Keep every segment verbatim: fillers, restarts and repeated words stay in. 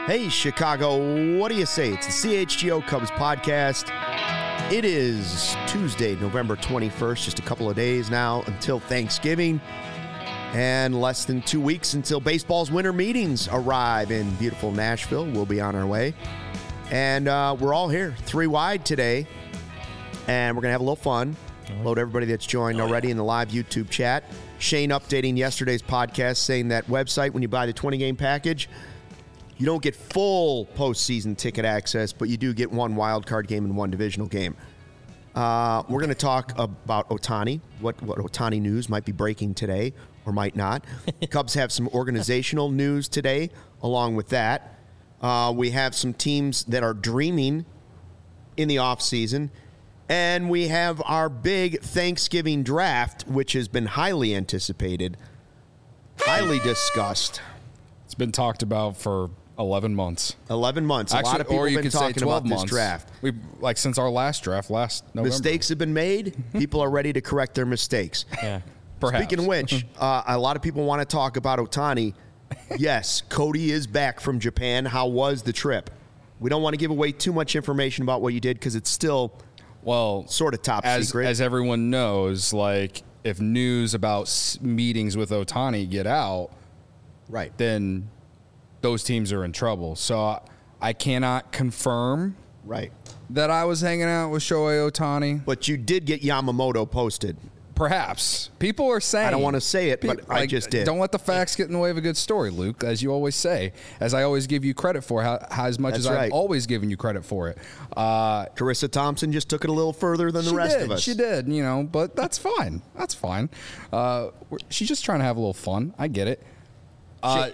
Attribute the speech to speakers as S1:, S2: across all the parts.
S1: Hey, Chicago, what do you say? It's the C H G O Cubs podcast. It is Tuesday, November twenty-first, just a couple of days now until Thanksgiving, and less than two weeks until baseball's winter meetings arrive in beautiful Nashville. We'll be on our way. And uh, we're all here, three wide today, and we're going to have a little fun. Hello to everybody that's joined already in the live YouTube chat. Shane updating yesterday's podcast saying that website, when you buy the twenty-game package, you don't get full postseason ticket access, but you do get one wild card game and one divisional game. Uh, we're going to talk about Ohtani, what, what Ohtani news might be breaking today or might not. Cubs have some organizational news today along with that. Uh, we have some teams that are dreaming in the offseason. And we have our big Thanksgiving draft, which has been highly anticipated, highly discussed.
S2: It's been talked about for eleven months.
S1: eleven months.
S2: Actually,
S1: a lot of people
S2: or you
S1: have been
S2: could say
S1: talking
S2: twelve
S1: about
S2: months.
S1: this draft.
S2: We like since our last draft last November.
S1: Mistakes have been made. People are ready to correct their mistakes.
S3: Yeah,
S2: perhaps.
S1: Speaking of which, uh, a lot of people want to talk about Ohtani. Yes, Cody is back from Japan. How was the trip? We don't want to give away too much information about what you did because it's still
S2: well
S1: sort of top
S2: as,
S1: secret.
S2: As everyone knows, like if news about s- meetings with Ohtani get out,
S1: right,
S2: then those teams are in trouble. So I cannot confirm
S1: right
S2: that I was hanging out with Shohei Ohtani.
S1: But you did get Yamamoto posted.
S2: Perhaps. People are saying.
S1: I don't want to say it, but
S2: Pe- like,
S1: I just did.
S2: Don't let the facts get in the way of a good story, Luke, as you always say, as I always give you credit for, how, how as much
S1: That's
S2: as
S1: right.
S2: I've always given you credit for it. Uh,
S1: Carissa Thompson just took it a little further than the
S2: she
S1: rest
S2: did,
S1: of us.
S2: She did, you know, but that's fine. That's fine. Uh, we're- she's just trying to have a little fun. I get it. Uh,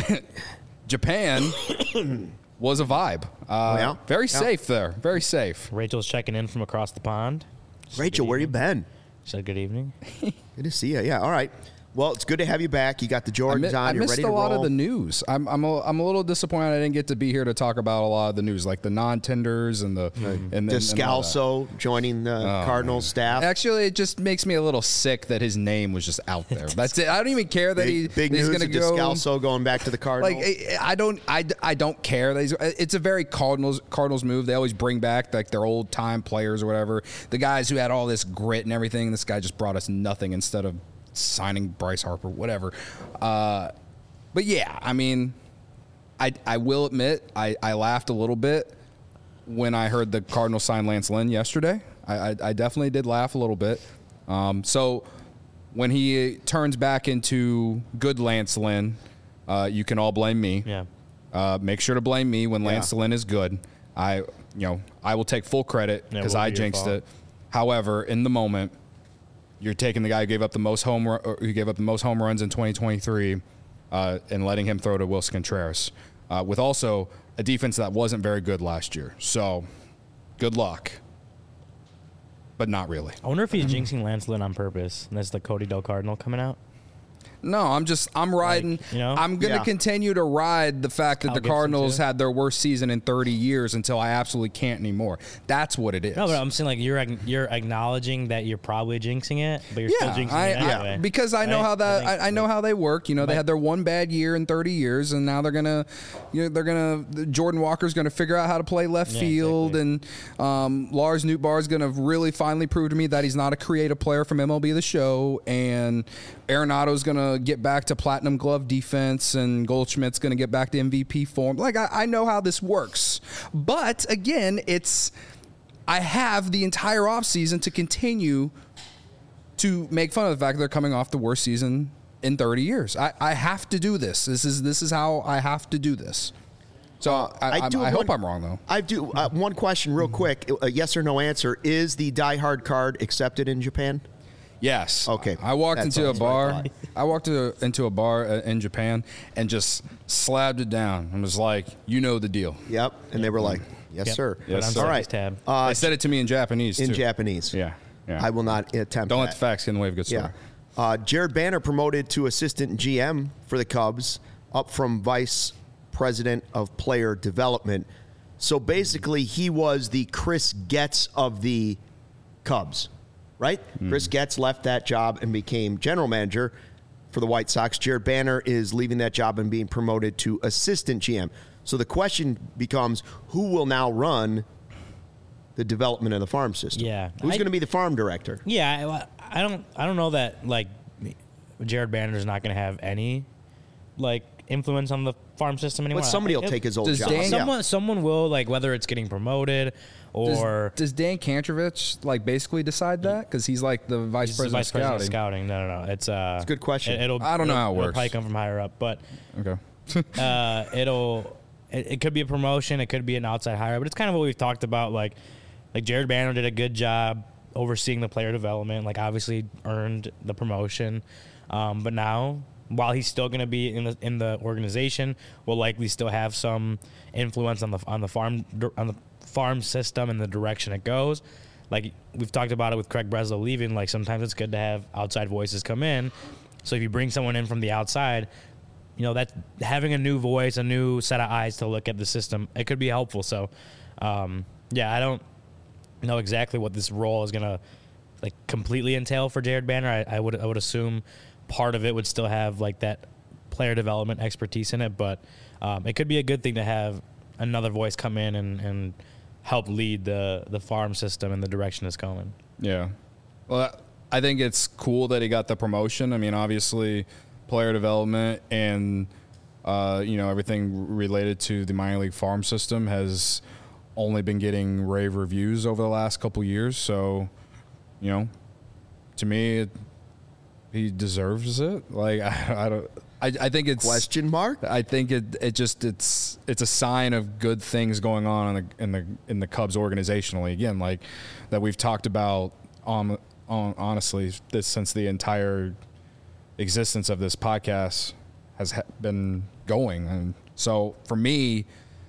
S2: Japan was a vibe. Uh,
S1: yeah?
S2: Very
S1: Yeah.
S2: safe there. Very safe.
S3: Rachel's checking in from across the pond.
S1: Rachel, where you been?
S3: She said good evening.
S1: Good to see you. Yeah, all right. Well, it's good to have you back. You got the
S2: I,
S1: Jordans
S2: mi-
S1: on.
S2: I
S1: You're
S2: missed
S1: ready
S2: a
S1: to
S2: lot
S1: roll.
S2: of the news. I'm I'm a, I'm a little disappointed I didn't get to be here to talk about a lot of the news, like the non-tenders and the and, and, and all that.
S1: Descalso joining the
S2: Oh,
S1: Cardinals staff.
S2: Actually, it just makes me a little sick that his name was just out there. That's it. I don't even care that he,
S1: Big, big
S2: that he's
S1: news
S2: going
S1: of
S2: to go.
S1: Descalso going back to the Cardinals.
S2: Like I I don't, I, I don't care. That he's, it's a very Cardinals Cardinals move. They always bring back like their old time players or whatever. The guys who had all this grit and everything. This guy just brought us nothing instead of signing Bryce Harper, whatever. Uh, but yeah, I mean, I I will admit I, I laughed a little bit when I heard the Cardinals sign Lance Lynn yesterday. I, I, I definitely did laugh a little bit. Um, so when he turns back into good Lance Lynn, uh, you can all blame me.
S3: Yeah.
S2: Uh, make sure to blame me when Lance
S1: Yeah.
S2: Lynn is good. I, you know, I will take full credit
S3: Yeah,
S2: because
S3: it won't
S2: I
S3: be your
S2: jinxed
S3: fault.
S2: it. However, in the moment, you're taking the guy who gave up the most home ru- or who gave up the most home runs in twenty twenty-three uh, and letting him throw to Wilson Contreras, uh, with also a defense that wasn't very good last year. So, good luck, but not really.
S3: I wonder if he's jinxing Lance Lynn on purpose. And that's the Cody Del Cardinal coming out.
S2: No, I'm just I'm riding.
S3: you know?
S2: I'm gonna
S1: Yeah.
S2: continue to ride the fact that
S3: Kyle
S2: the
S3: Gibson,
S2: Cardinals
S3: too.
S2: had their worst season in thirty years until I absolutely can't anymore. That's what it is.
S3: No, but I'm saying like you're ag- you're acknowledging that you're probably jinxing it, but you're
S2: yeah,
S3: still jinxing
S2: I,
S3: it
S2: I-
S3: anyway.
S2: because I know
S3: Right?
S2: how that
S3: think-
S2: I, I know how they work. You know, they
S3: But-
S2: had their one bad year in thirty years, and now they're gonna, you know, they're gonna Jordan Walker's gonna figure out how to play left
S3: Yeah,
S2: field,
S3: exactly.
S2: and um, Lars Nootbaar's gonna really finally prove to me that he's not a creative player from M L B The Show, and Arenado's gonna get back to platinum glove defense, and Goldschmidt's gonna get back to M V P form. Like I, I know how this works, but again, it's I have the entire offseason to continue to make fun of the fact that they're coming off the worst season in thirty years. I, I have to do this. This is this is how I have to do this. So I, I, I,
S1: do
S2: I
S1: have
S2: hope
S1: one-
S2: I'm wrong though.
S1: I do. Uh, one question, real quick. A yes or no answer. Is the Die Hard card accepted in Japan?
S2: Yes.
S1: Okay.
S2: I walked
S1: That's
S2: into a
S1: what I
S2: bar.
S1: thought.
S2: I walked to, into a bar uh, in Japan and just slabbed it down and was like, "You know the deal."
S1: Yep. And they were like, yes,
S3: Yep.
S1: sir.
S2: Yes,
S3: Put
S2: sir.
S3: on
S1: All
S3: Sony's
S1: right.
S3: tab.
S1: Uh,
S2: they said it to me in Japanese
S1: in
S2: too.
S1: Japanese.
S2: Yeah. Yeah.
S1: I will not attempt
S2: Don't
S1: that.
S2: let the facts get in the way of a good story.
S1: Yeah. Uh, Jared Banner promoted to assistant G M for the Cubs, up from vice president of player development. So basically, he was the Chris Getz of the Cubs, right?
S2: Mm.
S1: Chris Getz left that job and became general manager for the White Sox. Jared Banner is leaving that job and being promoted to assistant G M. So the question becomes, who will now run the development of the farm system?
S3: Yeah.
S1: Who's
S3: I-
S1: going to be the farm director?
S3: Yeah, I, I don't I don't know that like Jared Banner's not going to have any like influence on the farm system anymore.
S1: But somebody will
S3: It-
S1: take his old
S2: does
S1: job.
S2: Dan-
S1: Yeah.
S3: Someone someone will, like, whether it's getting promoted or
S2: Does, does Dan Kantrovich like basically decide that because he's like the vice
S3: he's the
S2: president
S3: vice
S2: of
S3: president
S2: scouting?
S3: of scouting. No, no, no. It's uh,
S1: It's a good question.
S3: It, will
S2: I don't know
S3: it'll-
S2: how it
S3: it'll
S2: works.
S3: Probably come from higher up, but
S2: Okay.
S3: uh, it'll it, it could be a promotion, it could be an outside hire, but it's kind of what we've talked about. Like, like Jared Banner did a good job overseeing the player development. Like, obviously earned the promotion, um, but now, while he's still going to be in the in the organization, will likely still have some influence on the on the farm on the farm system and the direction it goes. Like, we've talked about it with Craig Breslow leaving. Like, sometimes it's good to have outside voices come in. So if you bring someone in from the outside, you know, that having a new voice, a new set of eyes to look at the system, it could be helpful. So, um, yeah, I don't know exactly what this role is gonna like completely entail for Jared Banner. I, I would I would assume part of it would still have like that player development expertise in it, but um, it could be a good thing to have another voice come in and, and help lead the the farm system in the direction it's going.
S2: Yeah. Well, I think it's cool that he got the promotion. I mean, obviously, player development and uh, you know, everything related to the minor league farm system has only been getting rave reviews over the last couple years. So, you know, to me, it, he deserves it. Like, I, I don't. I, I think it's
S1: Question mark?
S2: I think it it just it's it's a sign of good things going on in the in the in the Cubs organizationally. Again, like that we've talked about on on honestly this since the entire existence of this podcast has ha- been going. And so for me,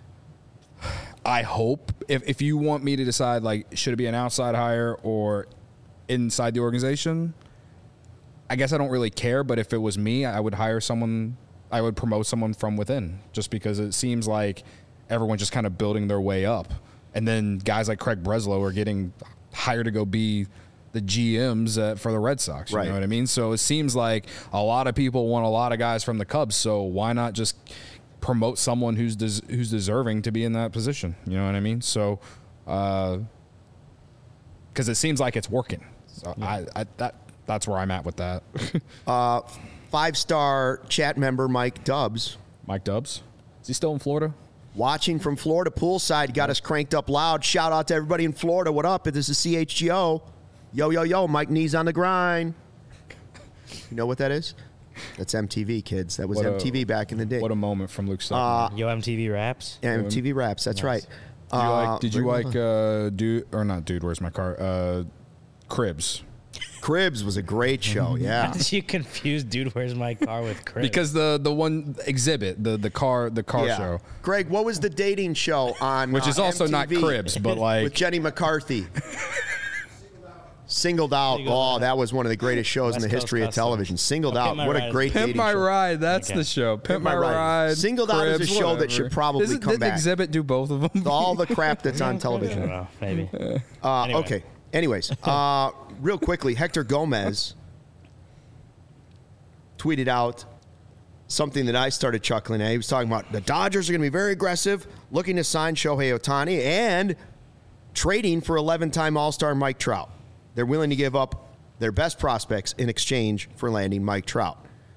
S2: I hope if if you want me to decide, like, should it be an outside hire or inside the organization, I guess I don't really care, but if it was me, I would hire someone, I would promote someone from within, just because it seems like everyone's just kind of building their way up. And then guys like Craig Breslow are getting hired to go be the G Ms uh, for the Red Sox. You
S1: Right.
S2: know what I mean? So it seems like a lot of people want a lot of guys from the Cubs, so why not just promote someone who's des- who's deserving to be in that position? You know what I mean? So, because uh, it seems like it's working. So I, I that that's where I'm at with that.
S1: Uh, five-star chat member Mike Dubs,
S2: Mike Dubs, is he still in Florida?
S1: watching from Florida poolside, got us cranked up loud. Shout out to everybody in Florida. What up? This is C H G O. Yo, yo, yo, Mike Knees on the grind. You know what that is? That's M T V, kids. That was
S2: What a-
S1: M T V back in the day.
S2: What a moment from Luke Sutton.
S3: Yo, M T V Raps.
S1: Yeah, M T V Raps, that's right.
S2: did you
S1: Uh,
S2: like, did you like uh, dude or not? Dude, where's my car? Uh, Cribs.
S1: Cribs was a great show, yeah.
S3: How did you confuse Dude, Where's My Car with Chris?
S2: Because the the one exhibit, the the car the car
S1: yeah.
S2: show,
S1: Greg, what was the dating show on
S2: which is
S1: uh,
S2: also
S1: M T V
S2: not Cribs, but like
S1: with Jenny McCarthy? Singled Out.
S3: Singled
S1: Oh,
S3: Out.
S1: that was one of the greatest shows in
S3: West
S1: the
S3: Coast
S1: history of
S3: Custom.
S1: television. Singled
S3: Oh,
S1: Out.
S3: Pimp My
S1: What a
S3: Ride.
S1: great
S2: Pimp
S1: dating
S2: My
S1: show.
S2: Ride. That's
S3: Okay.
S2: the show. Pimp,
S1: Pimp
S2: My
S1: My Ride.
S2: Ride.
S1: Singled Out is a
S2: Cribs,
S1: show that
S2: whatever.
S1: should probably
S2: Doesn't-
S1: come
S2: didn't
S1: back.
S2: Exhibit do both of them?
S1: All the crap that's on
S3: I
S1: television.
S3: don't know, maybe.
S1: Uh,
S3: Anyway.
S1: Okay. Anyways, uh, real quickly, Hector Gomez tweeted out something that I started chuckling at. He was talking about the Dodgers are going to be very aggressive, looking to sign Shohei Ohtani and trading for eleven-time All-Star Mike Trout. They're willing to give up their best prospects in exchange for landing Mike Trout.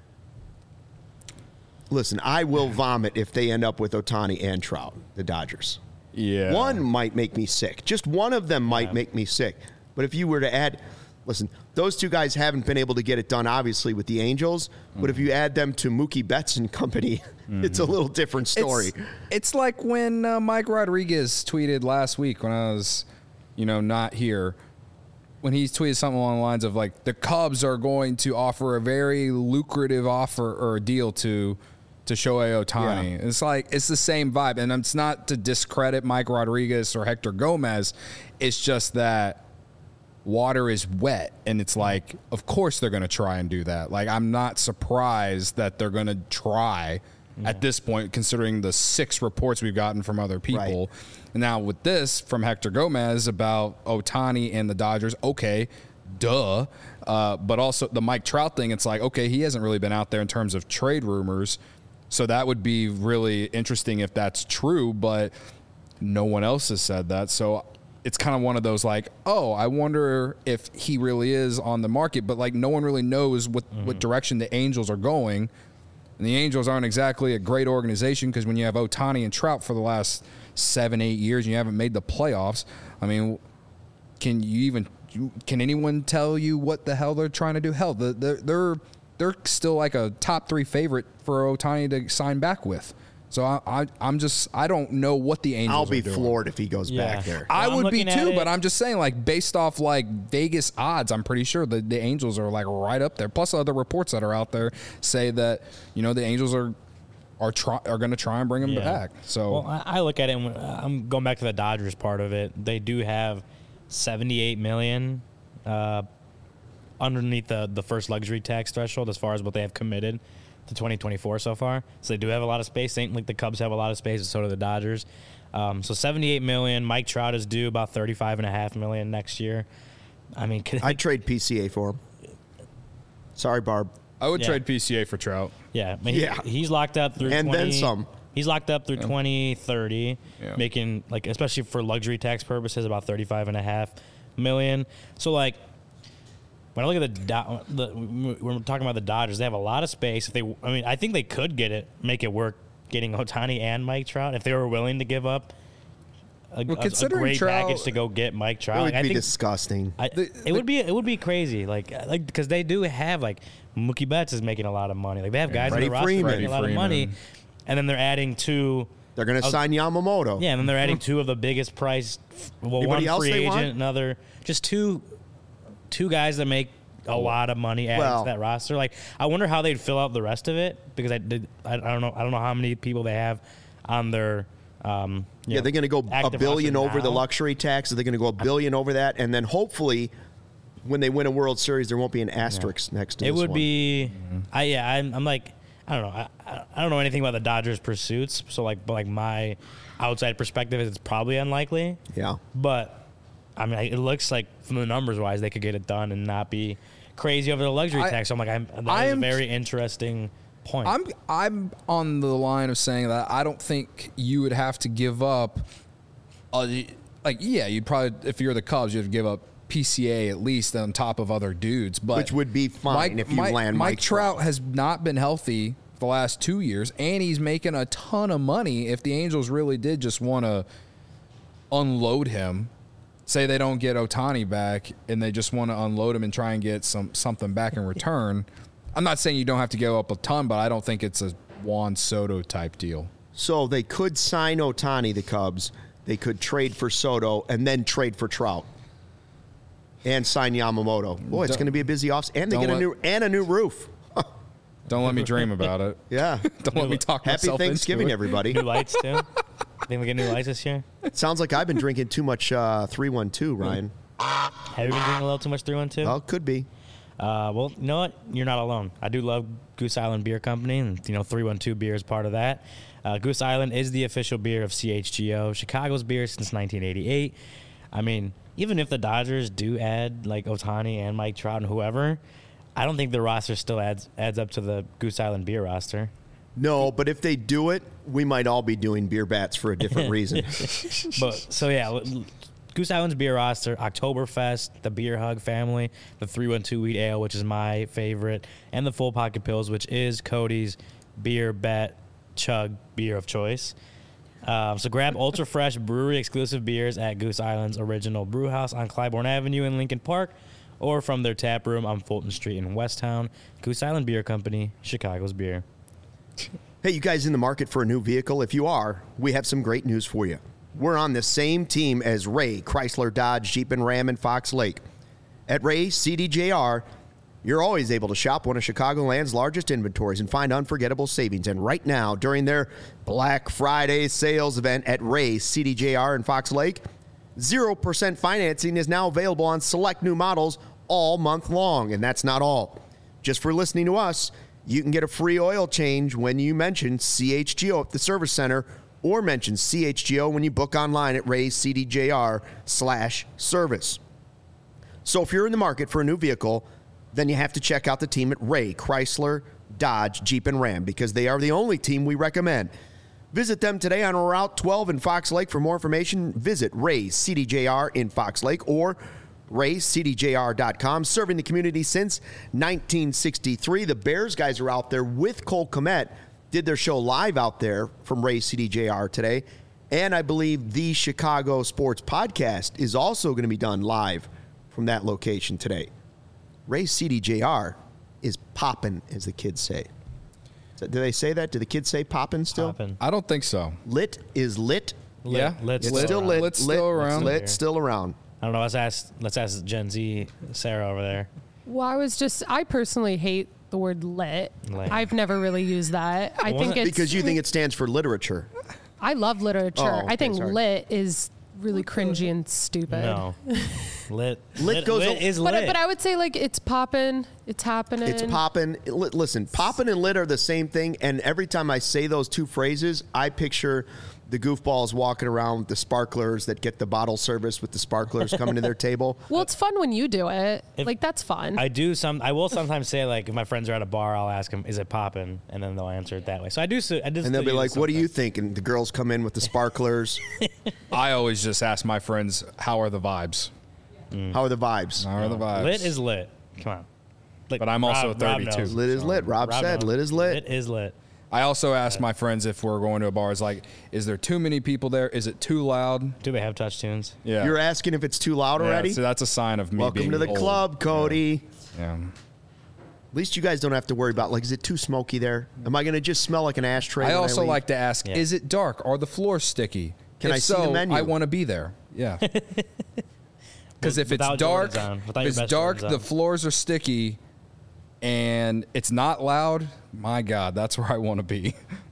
S1: Listen, I will vomit if they end up with Ohtani and Trout, the Dodgers.
S2: Yeah.
S1: One might make me sick. Just one of them might
S3: Yeah.
S1: make me sick. But if you were to add, listen, those two guys haven't been able to get it done, obviously, with the Angels. Mm-hmm. But if you add them to Mookie Betts and company, mm-hmm. it's a little different story.
S2: It's, it's like when uh, Mike Rodriguez tweeted last week when I was, you know, not here. When he tweeted something along the lines of like the Cubs are going to offer a very lucrative offer or deal to to Shohei Ohtani.
S1: Yeah.
S2: It's like it's the same vibe, and it's not to discredit Mike Rodriguez or Hector Gomez. It's just that water is wet, and it's like, of course they're going to try and do that. Like, I'm not surprised that they're going to try yeah. at this point, considering the six reports we've gotten from other people.
S1: Right.
S2: And now with this from Hector Gomez about Ohtani and the Dodgers, okay, duh. Uh, but also the Mike Trout thing, it's like, okay, he hasn't really been out there in terms of trade rumors. So that would be really interesting if that's true, but no one else has said that. So it's kind of one of those like, oh, I wonder if he really is on the market, but like no one really knows what, mm-hmm. what direction the Angels are going. And the Angels aren't exactly a great organization because when you have Ohtani and Trout for the last seven, eight years and you haven't made the playoffs, I mean, can you even can anyone tell you what the hell they're trying to do? Hell, they're they're they're still like a top three favorite for Ohtani to sign back with. So I, I I'm just I don't know what the Angels.
S1: I'll be
S2: are doing.
S1: floored if he goes
S3: Yeah.
S1: back there.
S2: I
S3: Well, I'm
S2: would be
S3: looking at
S2: too,
S3: it-
S2: but I'm just saying, like, based off like Vegas odds, I'm pretty sure that the Angels are like right up there. Plus, other reports that are out there say that you know the Angels are are try, are going to try and bring him
S3: Yeah.
S2: back. So
S3: Well, I, I look at it, and I'm going back to the Dodgers part of it. They do have seventy-eight million uh, underneath the the first luxury tax threshold as far as what they have committed to twenty twenty-four so far. So they do have a lot of space. Same like the Cubs have a lot of space, and so do the Dodgers. Um, so seventy-eight million. Mike Trout is due about thirty-five and a half million next year. I mean, could,
S1: I'd trade P C A for him. Sorry, Barb.
S2: I would
S3: Yeah.
S2: trade P C A for Trout.
S3: yeah, I mean, he-
S1: Yeah.
S3: he's locked up through
S1: And then
S3: twenty
S1: some.
S3: He's locked up through twenty thirty,
S2: Yeah.
S3: making like especially for luxury tax purposes about thirty-five and a half million. So like when I look at the, Do- the we're talking about the Dodgers, they have a lot of space. If they, I mean, I think they could get it, make it work, getting Ohtani and Mike Trout if they were willing to give up a,
S2: Well,
S3: a- a
S2: considering
S3: great
S2: Trout-
S3: package to go get Mike Trout.
S1: It would
S3: Like, I
S1: be
S3: think
S1: disgusting.
S3: I,
S2: The-
S3: it would be it would be crazy, like like because they do have like Mookie Betts is making a lot of money. Like they have guys
S1: Freddie
S3: on the roster
S1: Freeman.
S3: making a lot of money, and then they're adding two.
S1: They're going to
S3: Oh,
S1: sign Yamamoto.
S3: Yeah, and then they're adding two of the biggest priced. Well,
S1: Anybody
S3: one
S1: else
S3: free
S1: they
S3: agent,
S1: want?
S3: another just two, two guys that make a lot of money adding
S1: Well-
S3: to that roster. Like I wonder how they'd fill out the rest of it because I did. I, I don't know. I don't know how many people they have on their. Um, you
S1: Yeah,
S3: know,
S1: they're going to go a
S3: active
S1: billion
S3: roster
S1: over the
S3: now.
S1: luxury tax. They're going to go a billion over that, and then hopefully, when they win a World Series, there won't be an asterisk next to
S3: It
S1: this
S3: would
S1: one.
S3: be, I yeah, I'm, I'm like, I don't know, I, I I don't know anything about the Dodgers' pursuits, so like, but like my outside perspective is it's probably unlikely,
S1: Yeah.
S3: but I mean, it looks like from the numbers wise, they could get it done and not be crazy over the luxury
S2: I-
S3: tax. So I'm like, I'm, that
S2: I
S3: is a
S2: am-
S3: very interesting point.
S2: I'm I'm on the line of saying that I don't think you would have to give up. A, like yeah, you'd probably if you're the Cubs, you'd give up P C A at least on top of other dudes, but
S1: Which would be fine if you land
S2: Mike
S1: Mike
S2: Trout
S1: Trout.
S2: has not been healthy for the last two years, and he's making a ton of money. If the Angels really did just want to unload him, say they don't get Ohtani back, and they just want to unload him and try and get some something back in return. I'm not saying you don't have to go up a ton, but I don't think it's a Juan Soto type deal.
S1: So they could sign Ohtani, the Cubs. They could trade for Soto and then trade for Trout. And sign Yamamoto. Boy, it's
S2: Don't-
S1: going to be a busy off, and they
S2: don't
S1: get a
S2: let-
S1: new and a new roof.
S2: Don't let me dream about it.
S1: Yeah.
S2: Don't let me talk
S1: Happy
S2: myself
S1: Thanksgiving,
S2: into it.
S1: everybody.
S3: new lights too. Think we get new lights this year?
S1: Sounds like I've been drinking too much uh, three one two, Ryan.
S3: Have you been drinking a little too much three one two?
S1: Well, could be.
S3: Uh, well, you know what? You're not alone. I do love Goose Island Beer Company, and you know three one two beer is part of that. Uh, Goose Island is the official beer of C H G O, Chicago's beer since nineteen eighty-eight. I mean, even if the Dodgers do add like Ohtani and Mike Trout and whoever, I don't think the roster still adds adds up to the Goose Island beer roster.
S1: No, but if they do it, we might all be doing beer bats for a different reason.
S3: But so yeah, l- l- Goose Island's beer roster, Oktoberfest, the Beer Hug family, the three one two wheat ale, which is my favorite, and the Full Pocket Pills, which is Cody's beer bet chug beer of choice. Um, so grab ultra fresh brewery exclusive beers at Goose Island's original brew house on Clybourne Avenue in Lincoln Park, or from their tap room on Fulton Street in Westtown. Goose Island Beer Company, Chicago's beer.
S1: Hey, you guys in the market for a new vehicle? If you are, we have some great news for you. We're on the same team as Ray, Chrysler, Dodge, Jeep, and Ram in Fox Lake. At Ray C D J R, you're always able to shop one of Chicagoland's largest inventories and find unforgettable savings. And right now, during their Black Friday sales event at Ray C D J R in Fox Lake, zero percent financing is now available on select new models all month long. And that's not all. Just for listening to us, you can get a free oil change when you mention C H G O at the service center, or mention C H G O when you book online at Ray's C D J R slash service. So if you're in the market for a new vehicle, then you have to check out the team at Ray, Chrysler, Dodge, Jeep, and Ram because they are the only team we recommend. Visit them today on Route twelve in Fox Lake. For more information, visit Ray's C D J R in Fox Lake or rays c d j r dot com. Serving the community since nineteen sixty-three. The Bears guys are out there with Cole Kmet. Did their show live out there from Ray's C D J R today. And I believe the Chicago Sports Podcast is also going to be done live from that location today. Ray's C D J R is poppin', as the kids say. Do they say that? Do the kids say poppin' still?
S3: Poppin'.
S2: I don't think so.
S1: Lit is lit.
S3: Lit,
S2: Yeah,
S3: lit's
S1: It's
S3: still
S1: still
S3: around.
S1: lit.
S2: Lit's
S1: lit,
S2: still around.
S1: Lit, still around.
S3: I don't know. Let's ask. Let's ask Gen Z Sarah over there.
S4: Well, I was just, I personally hate the word lit.
S3: Lit.
S4: I've never really used that. I
S3: Wasn't
S4: think
S3: it-
S4: it's
S1: Because you think it stands for literature.
S4: I love literature.
S1: Oh, okay,
S4: I think
S1: sorry.
S4: lit is really cringy and stupid.
S3: No, lit.
S1: Lit goes
S3: lit
S1: a-
S3: is lit.
S4: But, but I would say like it's popping, it's happening.
S1: It's poppin'. Li- Listen, poppin' and lit are the same thing. And every time I say those two phrases, I picture the goofballs walking around with the sparklers that get the bottle service with the sparklers coming to their table.
S4: Well, it's fun when you do it.
S3: If-
S4: like that's fun.
S3: I do some. I will sometimes say like if my friends are at a bar, I'll ask them, "Is it poppin'?" And then they'll answer it that way. So I do. s- I just
S1: And they'll be like, what do you think? And the girls come in with the sparklers.
S2: I always just ask my friends, how are the vibes?
S1: How are the vibes?
S2: How are the vibes?
S3: Lit is lit. Come on. Like,
S2: But I'm also
S3: Rob- Rob
S2: thirty-two.
S3: knows.
S1: Lit is lit. Rob,
S3: Rob
S1: said
S3: knows.
S1: lit is lit.
S3: Lit is lit.
S2: I also ask my friends if we're going to a bar, is like, is there too many people there? Is it too loud?
S3: Do they have touch tunes?
S2: Yeah.
S1: You're asking if it's too loud
S2: Yeah,
S1: already?
S2: so that's a sign of me
S1: Welcome
S2: being
S1: to the
S2: old.
S1: club, Cody.
S2: Yeah.
S1: At least you guys don't have to worry about, like, is it too smoky there? Am I going to just smell like an ashtray?
S2: I
S1: when
S2: also
S1: leave?
S2: like to ask,
S3: Yeah.
S2: is it dark? Are the floors sticky?
S1: Can
S2: if
S1: I see
S2: so,
S1: the menu?
S2: I want to be there. Yeah. Because if it's
S3: Without
S2: dark,
S3: Jordans on, without
S2: if
S3: your
S2: it's
S3: best
S2: dark,
S3: Jordans
S2: the
S3: on.
S2: floors are sticky, and it's not loud. My God, that's where I want to be.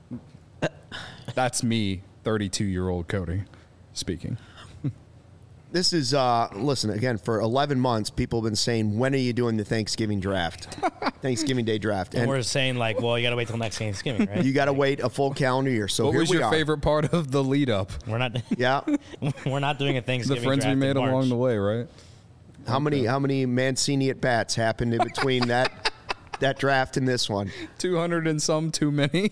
S2: That's me, thirty-two-year-old Cody, speaking.
S1: This is, uh, listen, again, for eleven months, people have been saying, when are you doing the Thanksgiving draft? Thanksgiving Day draft.
S3: And
S1: And
S3: we're saying like, well, you got to wait till next Thanksgiving, right?
S1: you got to wait a full calendar year. So
S2: What
S1: here
S2: was
S1: we
S2: your
S1: are.
S2: favorite part of the lead up?
S3: we're not.
S1: Yeah.
S3: we're not doing a
S2: The
S3: Thanksgiving.
S2: friends we
S3: draft in
S2: made
S3: March.
S2: along the way, right?
S1: How many how many Mancini at bats happened in between that that draft and this one?
S2: two hundred and some too many.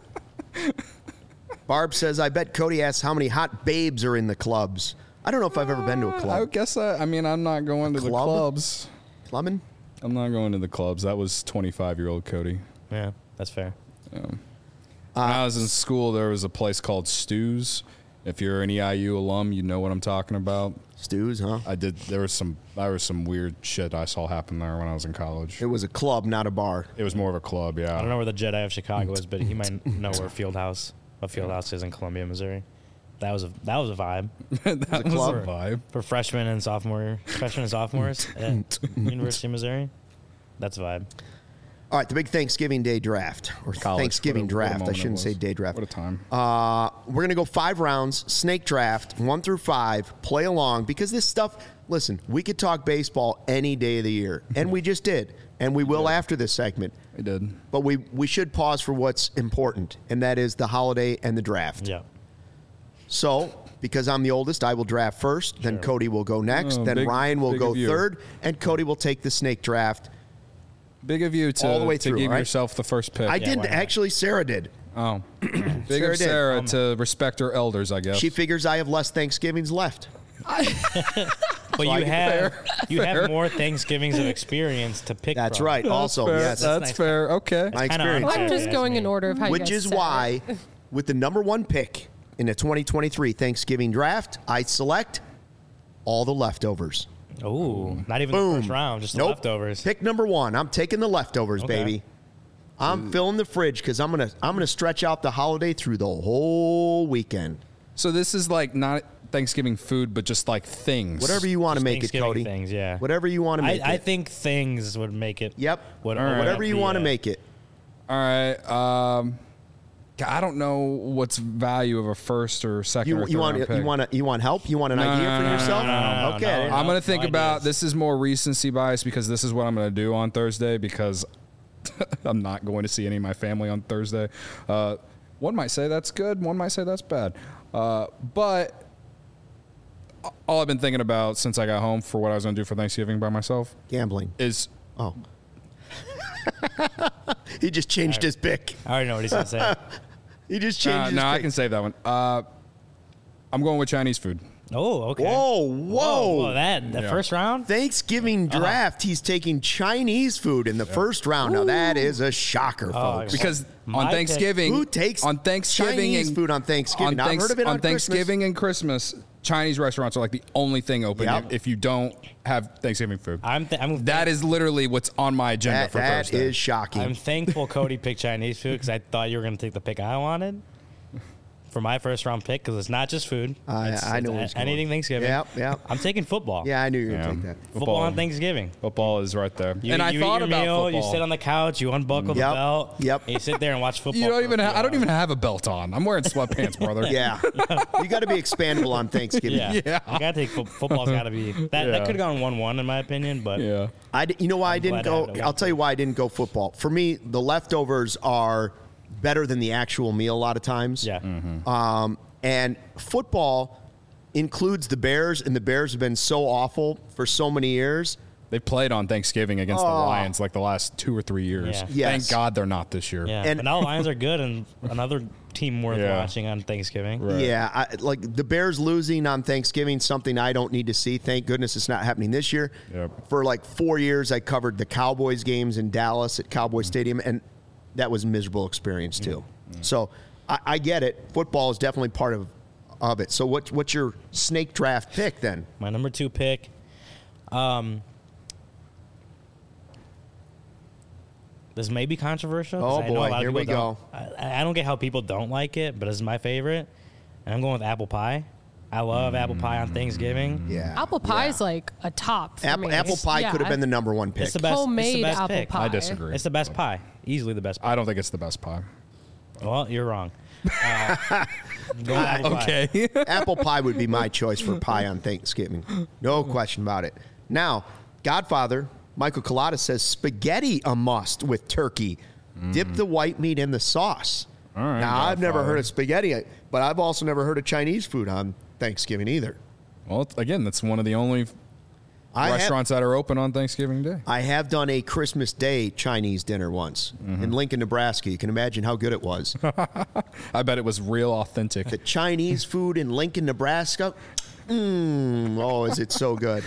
S1: Barb says, I bet Cody asks how many hot babes are in the clubs. I don't know if I've ever been to a
S2: I
S1: club.
S2: guess I, I mean, I'm not going to the
S1: club?
S2: clubs.
S1: Clubbing?
S2: I'm not going to the clubs. That was twenty-five-year-old Cody.
S3: Yeah, that's fair.
S2: When I was in school, there was a place called Stu's. If you're an E I U alum, you know what I'm talking about.
S1: Stews, huh?
S2: I did. There was some. There was some weird shit I saw happen there when I was in college.
S1: It was a club, not a bar.
S2: It was more of a club, yeah.
S3: I don't know where the Jedi of Chicago is, but he might know where Fieldhouse, what Fieldhouse is in Columbia, Missouri. That was a that was a vibe
S2: that was
S1: club?
S2: a vibe.
S3: for freshmen and sophomore freshmen and sophomores at University of Missouri. That's a vibe.
S1: All right, the big Thanksgiving Day draft, or
S2: College.
S1: Thanksgiving
S2: What a- what a
S1: draft. I
S2: moment it
S1: shouldn't say
S2: was.
S1: day draft.
S2: What a time.
S1: Uh, we're going to go five rounds, snake draft, one through five, play along, because this stuff, listen, we could talk baseball any day of the year, and we just did, and we will after this segment.
S2: I did.
S1: But we, we should pause for what's important, and that is the holiday and the draft.
S3: Yeah.
S1: So, because I'm the oldest, I will draft first, then
S3: Sure.
S1: Cody will go next,
S2: Oh,
S1: then
S2: big-
S1: Ryan will
S2: big
S1: go
S2: of you.
S1: third, and Cody will take the snake draft.
S2: Big of you to,
S1: All the way
S2: to
S1: through,
S2: give
S1: right?
S2: yourself the first pick.
S1: I
S3: Yeah,
S1: did
S3: why not?
S1: actually. Sarah did.
S2: Oh, big
S1: Sarah
S2: of
S1: did.
S2: Sarah
S3: Um,
S2: to respect her elders, I guess.
S1: She figures I have less Thanksgivings left.
S3: But you have
S2: fair,
S3: you
S2: fair.
S3: have more Thanksgivings of experience to pick
S1: That's
S3: from.
S1: right.
S2: That's
S1: also,
S2: fair.
S1: yes,
S2: that's
S3: nice.
S2: fair. Okay.
S1: my
S3: kinda
S1: experience.
S3: unfair.
S4: I'm just
S3: That's
S4: going
S3: me.
S4: in order of how you
S1: Which
S4: guys
S1: is
S4: said it.
S1: why, with the number one pick in the twenty twenty-three Thanksgiving draft, I select all the leftovers.
S3: Oh, not even
S1: Boom.
S3: the first round, just the
S1: Nope.
S3: leftovers.
S1: Pick number one. I'm taking the leftovers,
S3: Okay.
S1: baby. I'm filling the fridge because I'm gonna I'm gonna stretch out the holiday through the whole weekend.
S2: So this is like not Thanksgiving food, but just like things.
S1: Whatever you want to
S3: Just
S1: make it,
S3: Thanksgiving
S1: Cody.
S3: things, yeah.
S1: Whatever you want to
S3: I,
S1: make
S3: I
S1: it.
S3: think things would make it.
S1: Yep.
S3: Would,
S2: All right.
S3: would
S1: Whatever you
S3: be,
S1: want to
S3: uh,
S1: make it.
S2: All right. Um, I don't know what's value of a first or second or
S1: You
S2: third
S1: you want
S2: round pick.
S1: you want to you want help? You want an
S2: No,
S1: idea
S2: no,
S1: for
S2: no,
S1: yourself?
S3: no, no, no,
S1: okay.
S3: no.
S2: I'm going to think
S3: no
S2: about
S3: ideas.
S2: this is more recency bias because this is what I'm going to do on Thursday because I'm not going to see any of my family on Thursday. Uh, one might say that's good. One might say that's bad. Uh, but all I've been thinking about since I got home for what I was going to do for Thanksgiving by myself
S1: Gambling.
S2: is
S1: Oh. he just changed his pick.
S3: I already know what he's gonna say.
S1: He just changed
S2: Uh,
S1: his
S2: no,
S1: pick.
S2: I can save that one. Uh, I'm going with Chinese food.
S3: Oh, okay.
S1: Whoa, whoa.
S3: whoa, that the
S2: Yeah.
S3: first round.
S1: Thanksgiving draft, he's taking Chinese food in the first round. Now that is a shocker, folks.
S2: Because
S3: My
S2: on
S3: pick-
S2: Thanksgiving,
S1: Who takes
S2: on Thanksgiving
S1: Chinese
S2: and,
S1: food on Thanksgiving?
S2: On,
S1: I've heard of it on
S2: Thanksgiving and Christmas, Chinese restaurants are like the only thing open
S1: Yep.
S2: if, if you don't have Thanksgiving food.
S3: I'm, th- I'm
S2: that is literally what's on my agenda
S1: That,
S2: for
S1: that
S2: Thursday.
S1: is shocking.
S3: I'm thankful Cody picked Chinese food because I thought you were going to take the pick I wanted for my first round pick because it's not just food.
S1: I-
S3: It's-
S1: I know
S3: it's
S1: where it's going.
S3: anything Thanksgiving.
S1: Yep, yep.
S3: I'm taking football.
S1: yeah, I knew you were
S2: Yeah.
S1: going to take that.
S3: Football on Thanksgiving.
S2: Football is right there.
S3: You,
S2: and I
S3: you
S2: thought
S3: eat your
S2: about
S3: meal,
S2: football.
S3: you sit on the couch, you unbuckle
S1: Yep,
S3: the belt,
S1: yep.
S3: and you sit there and watch football.
S2: You don't
S3: for
S2: even.
S3: a
S2: Ha-
S3: few
S2: I don't even
S3: hours.
S2: have a belt on. I'm wearing sweatpants, brother.
S1: Yeah. You got to be expandable on Thanksgiving.
S3: Yeah,
S2: Yeah.
S3: You gotta take fo- football's got to be that. That
S2: Yeah.
S3: could have gone one-one in my opinion, but
S2: Yeah.
S1: I di- you know why I didn't
S3: glad I
S1: go?
S3: had it.
S1: I'll tell you why I didn't go football. For me, the leftovers are better than the actual meal a lot of times.
S3: yeah.
S1: Um, and football includes the Bears, and the Bears have been so awful for so many years.
S2: They played on Thanksgiving against
S1: Oh.
S2: the Lions like the last two or three years.
S3: Yeah.
S1: Yes.
S2: Thank God they're not this year.
S3: Yeah,
S1: And-
S3: but now the Lions are good, and another team worth
S2: Yeah.
S3: watching on Thanksgiving.
S2: Right.
S1: Yeah, I, like the Bears losing on Thanksgiving, something I don't need to see. Thank goodness it's not happening this year.
S2: Yep.
S1: For like four years, I covered the Cowboys games in Dallas at Cowboy Stadium, and that was a miserable experience too. So I, I get it. Football is definitely part of of it. So what what's your snake draft pick then?
S3: My number two pick. Um, this may be controversial. 'cause
S1: Oh,
S3: I know a
S1: boy,
S3: lot of
S1: here
S3: people
S1: we
S3: don't-
S1: go.
S3: I, I don't get how people don't like it, but it's my favorite. And I'm going with apple pie. I love apple pie on Thanksgiving.
S1: Yeah,
S4: Apple pie
S1: yeah.
S4: is like a top. For
S1: apple,
S4: me.
S1: apple pie
S4: Yeah.
S1: could have been the number one pick.
S3: It's the best. it's the
S4: Homemade
S3: best
S4: apple
S3: pick.
S4: pie.
S2: I disagree.
S3: It's the best pie. Easily the best pie.
S2: I don't think it's the best pie.
S3: Well, you're wrong. Uh, I'm going with apple pie.
S2: Okay.
S1: Apple pie would be my choice for pie on Thanksgiving. No question about it. Now, Godfather, Michael Collada says spaghetti a must with turkey. Dip the white meat in the sauce.
S2: All right,
S1: now, I've never
S2: Godfather.
S1: heard of spaghetti, but I've also never heard of Chinese food on Thanksgiving either.
S2: Well, it's- again, that's one of the only
S1: I have,
S2: restaurants that are open on Thanksgiving Day.
S1: I have done a Christmas Day Chinese dinner once in Lincoln, Nebraska. You can imagine how good it was.
S2: I bet it was real authentic.
S1: The Chinese food in Lincoln, Nebraska. Mmm. Oh, is it so good?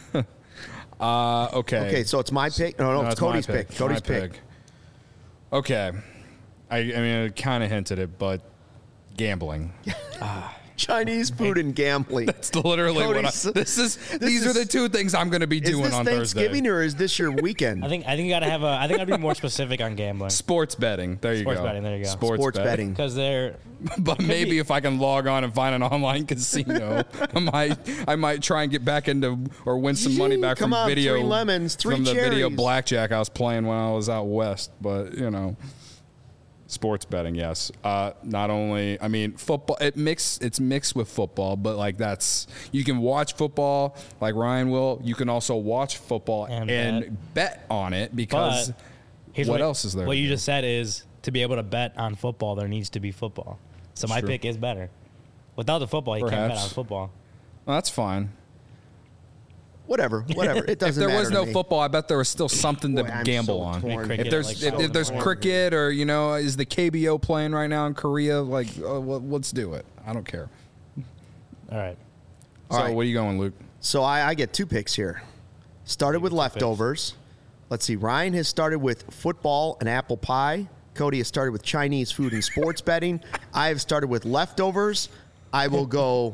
S2: Uh, okay.
S1: Okay, so it's my pick. No, no,
S2: No,
S1: it's
S2: my
S1: Cody's pick. Cody's
S2: My
S1: pick.
S2: Okay. I, I mean, I kind of hinted it, but gambling.
S1: Chinese food and gambling.
S2: It's literally what I,
S1: Cody's-
S2: this is.
S1: this
S2: these are
S1: is-
S2: the two things I'm going to be
S1: Is
S2: doing
S1: this
S2: on
S1: Thanksgiving
S2: Thursday.
S1: or is this your weekend?
S3: I think I think you gotta have a. I think I'd be more specific on gambling
S2: Sports betting. There you
S3: Sports
S2: go.
S3: betting, there you go.
S2: Sports,
S1: Sports
S2: betting.
S1: betting.
S3: because they're
S2: But maybe
S3: be-
S2: if I can log on and find an online casino, I might I might try and get back into or win some money back
S1: Come
S2: from
S1: on,
S2: video
S1: three lemons, three
S2: from the video
S1: cherries.
S2: blackjack I was playing when I was out west. But you know, sports betting, yes. Uh, not only I mean football, it mix it's mixed with football, but like that's you can watch football like Ryan will. You can also watch football and,
S3: And
S2: bet. on it because
S3: But here's
S2: what else is there
S3: What
S2: to
S3: you
S2: do?
S3: just said is to be able to bet on football, there needs to be football. So my
S2: True.
S3: pick is better. Without the football, you can't bet
S2: Perhaps.
S3: on football.
S2: well, that's fine.
S1: Whatever, whatever. It
S2: If
S1: doesn't
S2: there
S1: matter
S2: was
S1: to
S2: no
S1: me.
S2: football, I bet there was still something
S1: Boy,
S2: to
S1: I'm
S2: gamble
S1: so
S2: on.
S1: torn.
S3: Cricket,
S2: If there's
S3: like,
S2: if,
S3: so
S2: if there's
S3: torn.
S2: cricket or you know is the K B O playing right now in Korea, like uh, well, let's do it. I don't care.
S3: All right.
S1: All
S2: so
S1: right.
S2: what are you going, Luke?
S1: So I, I get two picks here. Started with leftovers. Let's see. Ryan has started with football and apple pie. Cody has started with Chinese food and sports betting. I have started with leftovers. I will go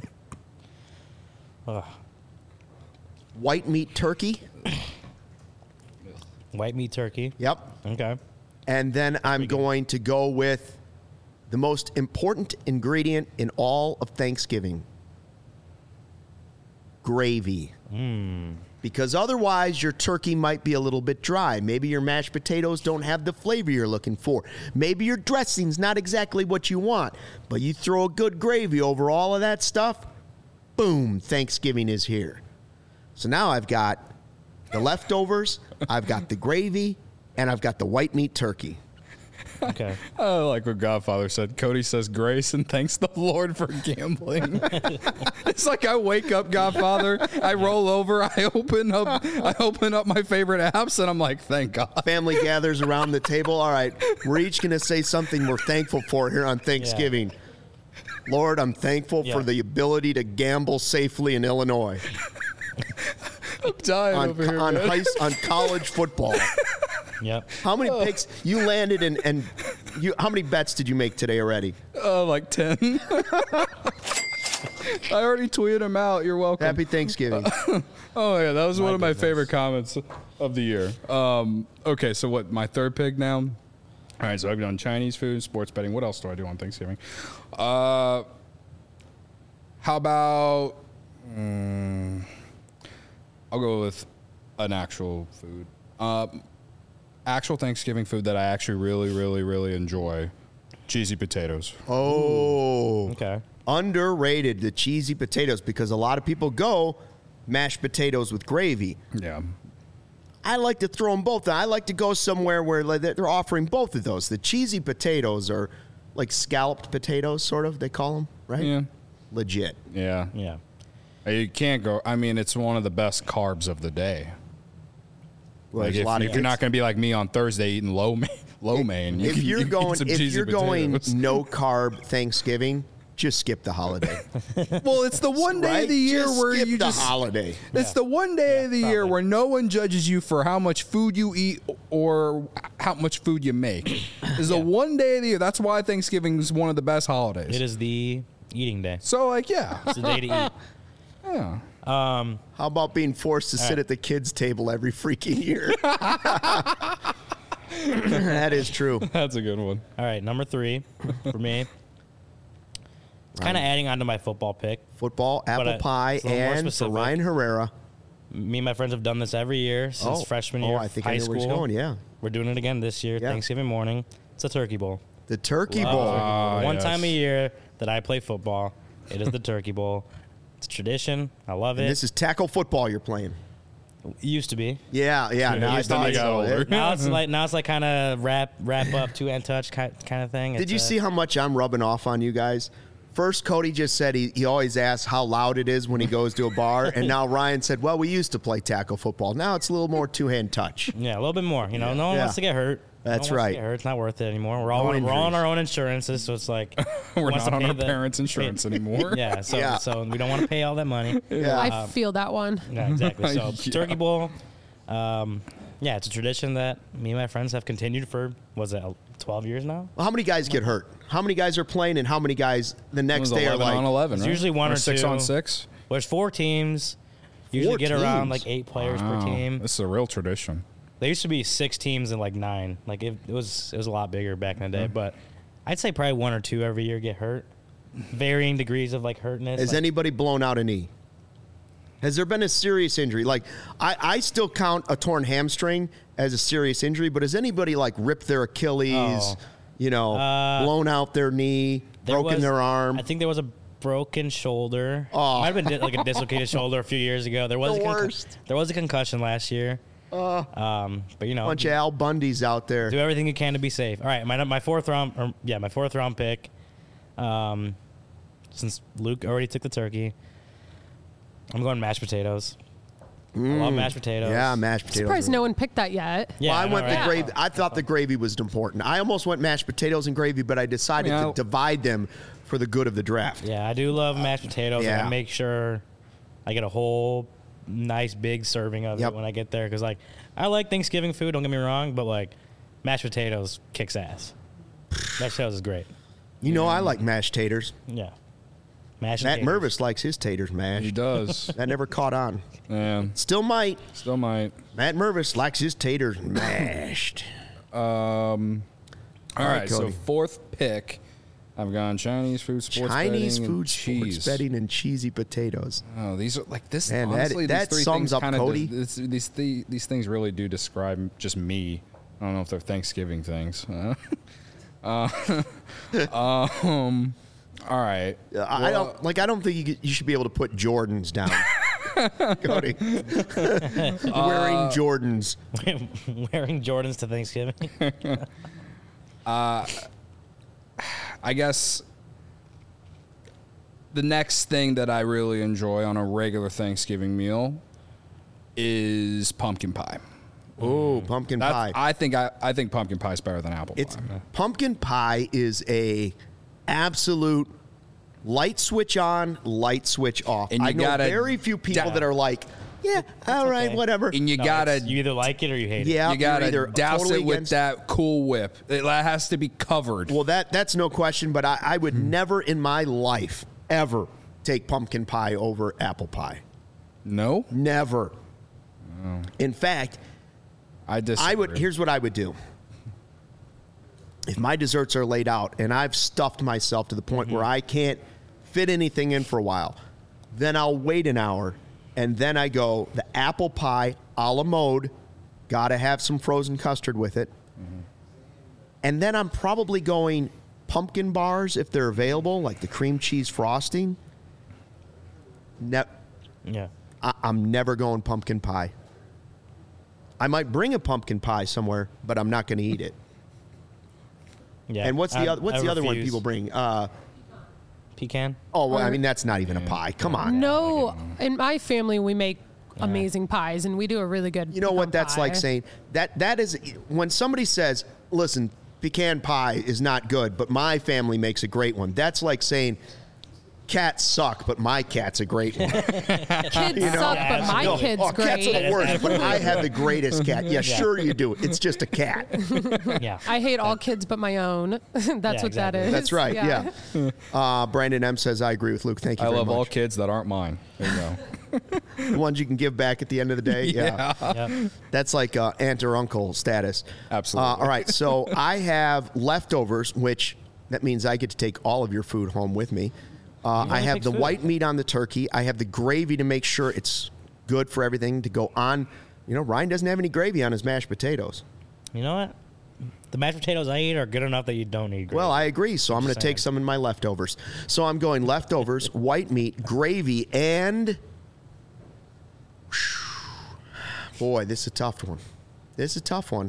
S3: Ugh.
S1: white meat turkey.
S3: White meat turkey.
S1: Yep.
S3: Okay.
S1: And then I'm going to go with the most important ingredient in all of Thanksgiving gravy. Because otherwise, your turkey might be a little bit dry. Maybe your mashed potatoes don't have the flavor you're looking for. Maybe your dressing's not exactly what you want. But you throw a good gravy over all of that stuff, boom, Thanksgiving is here. So now I've got the leftovers, I've got the gravy, and I've got the white meat turkey.
S3: Okay.
S2: I like what Godfather said. Cody says grace and thanks the Lord for gambling. It's like I wake up, Godfather, I roll over, I open up, I open up my favorite apps, and I'm like, thank God.
S1: Family gathers around the table. All right, we're each going to say something we're thankful for here on Thanksgiving. Lord, I'm thankful
S3: Yeah.
S1: for the ability to gamble safely in Illinois
S2: I'm dying
S1: on
S2: over here,
S1: on,
S2: man.
S1: high, on college football.
S3: Yep.
S1: How many picks you landed in, and you? How many bets did you make today already?
S2: Uh, like ten. I already tweeted them out. You're welcome.
S1: Happy Thanksgiving.
S2: Oh yeah, that was
S3: My
S2: one of my
S3: goodness.
S2: favorite comments of the year. Um, okay, so what? My third pick now. All right, so I've done Chinese food, sports betting. What else do I do on Thanksgiving? Uh, how about? mm, I'll go with an actual food. Uh, actual Thanksgiving food that I actually really, really, really enjoy. Cheesy potatoes.
S1: Oh,
S3: Okay.
S1: underrated the cheesy potatoes because a lot of people go mashed potatoes with gravy.
S2: Yeah.
S1: I like to throw them both. I like to go somewhere where like, they're offering both of those. The cheesy potatoes are like scalloped potatoes, sort of. They call them, right?
S2: Yeah.
S1: Legit.
S2: Yeah.
S3: Yeah.
S2: You can't go. I mean, it's one of the best carbs of the day.
S1: Well,
S2: Like
S1: there's
S2: if,
S1: a lot of
S2: if you're not
S1: kids-
S2: going to be like me on Thursday eating low main, low main, you
S1: if
S2: can-
S1: you're
S2: you can eat
S1: going,
S2: some
S1: if
S2: cheesy
S1: you're going
S2: potatoes.
S1: no carb Thanksgiving, just skip the holiday.
S2: Well, it's the one day
S1: right?
S2: of the year
S1: Just
S2: where
S1: skip
S2: you
S1: the
S2: just.
S1: holiday.
S2: It's the one day of the year
S3: probably.
S2: where no one judges you for how much food you eat or how much food you make. It's the one day of the year. That's why Thanksgiving is one of the best holidays.
S3: It is the eating day.
S2: So, like, yeah,
S3: It's the day to eat.
S2: yeah.
S3: Um,
S1: How about being forced to sit
S3: right.
S1: at the kids' table every freaking year? That is true.
S2: That's a good one.
S3: all right, number three for me. It's kind of adding on to my football pick.
S1: Football, apple
S3: uh,
S1: pie,
S3: it's a little more
S1: and for
S3: specific.
S1: Ryan Herrera.
S3: Me and my friends have done this every year since freshman
S1: oh,
S3: year
S1: I
S3: of
S1: think
S3: high
S1: I know
S3: school.
S1: where he's going. Yeah,
S3: We're doing it again this year,
S1: Yeah.
S3: Thanksgiving morning. It's a turkey bowl.
S1: the Turkey
S3: Love
S1: Bowl.
S3: turkey bowl.
S2: Ah,
S3: One
S2: yes.
S3: time a year that I play football, it is the turkey bowl. It's a tradition. I love
S1: And
S3: it.
S1: this is tackle football you're playing.
S3: It used to be.
S1: Yeah, yeah. Now I
S3: used to
S1: thought
S3: be.
S1: so.
S2: older.
S3: Now it's like now it's like kind of wrap wrap up two hand touch kind kind of thing.
S1: Did
S3: It's,
S1: you
S3: uh,
S1: see how much I'm rubbing off on you guys? First, Cody just said he, he always asks how loud it is when he goes to a bar. And now Ryan said, well, we used to play tackle football. Now it's a little more two-hand touch.
S3: Yeah, a little bit more. You know, no one
S1: Yeah.
S3: wants to get hurt.
S1: That's
S3: no one wants
S1: right.
S3: To get hurt. It's not worth it anymore. We're all
S1: No
S3: on, we're all on
S1: injuries.
S3: our own insurances, so it's like
S2: We're
S3: wants
S2: not
S3: to
S2: on
S3: pay
S2: our
S3: the-
S2: parents' insurance anymore.
S3: yeah. So
S1: Yeah.
S3: so we don't want to pay all that money.
S1: Yeah.
S4: I feel that one.
S3: Yeah, exactly. So
S2: Yeah.
S3: turkey bowl. Um, yeah, it's a tradition that me and my friends have continued for was it twelve years now?
S1: Well, how many guys get hurt? How many guys are playing and how many guys the
S2: It
S1: next
S2: was
S1: day are
S2: eleven
S1: like,
S2: on eleven,
S3: It's
S2: right?
S3: usually one or
S2: six
S3: two.
S2: on six.
S3: Well, there's four teams. Usually
S1: Four
S3: get around
S1: teams?
S3: like eight players
S2: Wow.
S3: per team.
S2: This is a real tradition.
S3: There used to be six teams and like nine. Like it, it was it was a lot bigger back in the day. But I'd say probably one or two every year get hurt. Varying degrees of like hurtness.
S1: has
S3: Like,
S1: anybody blown out a knee? Has there been a serious injury? Like, I, I still count a torn hamstring as a serious injury, but has anybody like ripped their Achilles,
S3: Oh.
S1: you know,
S3: Uh,
S1: blown out their knee,
S3: there
S1: broken
S3: was-
S1: their arm?
S3: I think there was a broken shoulder.
S1: Oh.
S3: Might have been di- like a dislocated shoulder a few years ago. There was
S1: The
S3: a concussion.
S1: worst.
S3: There was a concussion last year. um, but you know,
S1: bunch of Al Bundys out there.
S3: do everything you can to be safe. All right, my my fourth round, or, yeah, my fourth round pick. Um, since Luke already took the turkey, I'm going mashed potatoes. I love mashed potatoes.
S1: Mm. Yeah, mashed potatoes.
S4: Surprised
S1: are-
S4: no one picked that yet.
S3: Yeah,
S1: well, I
S3: I know,
S1: went the
S3: right?
S1: gravy. I thought the gravy was important. I almost went mashed potatoes and gravy, but I decided
S2: I mean,
S1: to
S2: I'll-
S1: divide them for the good of the draft.
S3: Yeah, I do love mashed potatoes.
S1: Yeah.
S3: And I make sure I get a whole nice big serving of
S1: Yep.
S3: it when I get there. Because, like, I like Thanksgiving food, don't get me wrong, but, like, mashed potatoes kicks ass. Mashed potatoes is great.
S1: You know, I like mashed taters.
S3: Yeah. Mashed
S1: Matt
S3: potatoes.
S1: Mervis likes his taters
S2: He
S1: mashed.
S2: does.
S1: That never caught on.
S2: Yeah,
S1: Still might.
S2: still might.
S1: Matt Mervis likes his taters mashed.
S2: Um, all
S1: All right,
S2: right, so
S1: Cody.
S2: fourth pick, I've gone Chinese food, sports
S1: Chinese
S2: betting,
S1: food,
S2: and
S1: sports
S2: cheese.
S1: betting, and cheesy potatoes.
S2: Oh, these are like this.
S1: Man, that-
S2: honestly,
S1: that
S2: these three
S1: sums
S2: things
S1: up
S2: kinda
S1: Cody.
S2: Does, this, these th- these things really do describe just me. I don't know if they're Thanksgiving things. uh, um, all right.
S1: Uh, I don't like. I don't think you, you should be able to put Jordans down. Cody, wearing Jordans.
S3: Wearing Jordans to Thanksgiving.
S2: Uh, I guess the next thing that I really enjoy on a regular Thanksgiving meal is pumpkin pie.
S1: Oh, pumpkin
S2: That's,
S1: pie.
S2: I think I, I think pumpkin pie is better than apple
S1: It's
S2: pie.
S1: pumpkin pie is a absolute light switch on, light switch off.
S2: And you
S1: I know
S2: gotta
S1: very few people
S2: da-
S1: that are like, yeah, all right,
S3: okay.
S1: whatever.
S2: And you
S3: No,
S2: gotta
S3: it's- you either like it or you hate it.
S1: yeah,
S2: you gotta
S1: you're either
S2: douse
S1: totally
S2: it with
S1: against-
S2: that Cool Whip. It has to be covered.
S1: Well, that that's no question, but I, I would never in my life ever take pumpkin pie over apple pie.
S2: no,
S1: Never. In fact,
S2: I disagree.
S1: I would. Here's what I would do. If my desserts are laid out and I've stuffed myself to the point
S2: Mm-hmm.
S1: where I can't fit anything in for a while, then I'll wait an hour, and then I go the apple pie a la mode. Got to have some frozen custard with it,
S2: Mm-hmm.
S1: and then I'm probably going pumpkin bars if they're available, like the cream cheese frosting. Ne-
S3: Yeah.
S1: I- I'm never going pumpkin pie. I might bring a pumpkin pie somewhere, but I'm not going to eat it.
S3: Yeah.
S1: And what's the
S3: I-
S1: other, what's
S3: I
S1: the other one
S3: refuse.
S1: people bring? Uh,
S3: Pecan.
S1: oh, well, I mean that's not even a pie. Come on.
S4: No, in my family we make amazing pies, and we do a really good.
S1: You know what
S4: pecan
S1: that's
S4: pie.
S1: like saying? That that is when somebody says, "Listen, pecan pie is not good, but my family makes a great one." That's like saying, "Cats suck, but my cat's a great one."
S4: Kids
S1: You know?
S4: suck,
S3: Yeah,
S4: but my
S1: No,
S4: kid's
S1: oh, cats are
S4: great.
S1: the worst, but I have the greatest cat. Yeah, sure you do. It's just a cat.
S3: Yeah.
S4: I hate all kids but my own. That's what that
S3: exactly.
S4: is.
S1: That's right. Yeah. Uh, Brandon M says, "I agree with Luke. Thank you
S2: I
S1: very
S2: love
S1: much."
S2: all kids that aren't mine. There you go.
S1: The ones you can give back at the end of the day. Yeah.
S3: Yep.
S1: That's like uh, aunt or uncle status.
S2: Absolutely.
S1: Uh, all right. So I have leftovers, which that means I get to take all of your food home with me. Uh, I
S3: only
S1: have
S3: takes
S1: the
S3: food.
S1: white meat on the turkey. I have the gravy to make sure it's good for everything to go on. You know, Ryan doesn't have any gravy on his mashed potatoes.
S3: You know what? The mashed potatoes I eat are good enough that you don't need gravy.
S1: Well, I agree. So I'm going to take
S3: saying.
S1: some in my leftovers. So I'm going leftovers, white meat, gravy, and boy, this is a tough one. This is a tough one.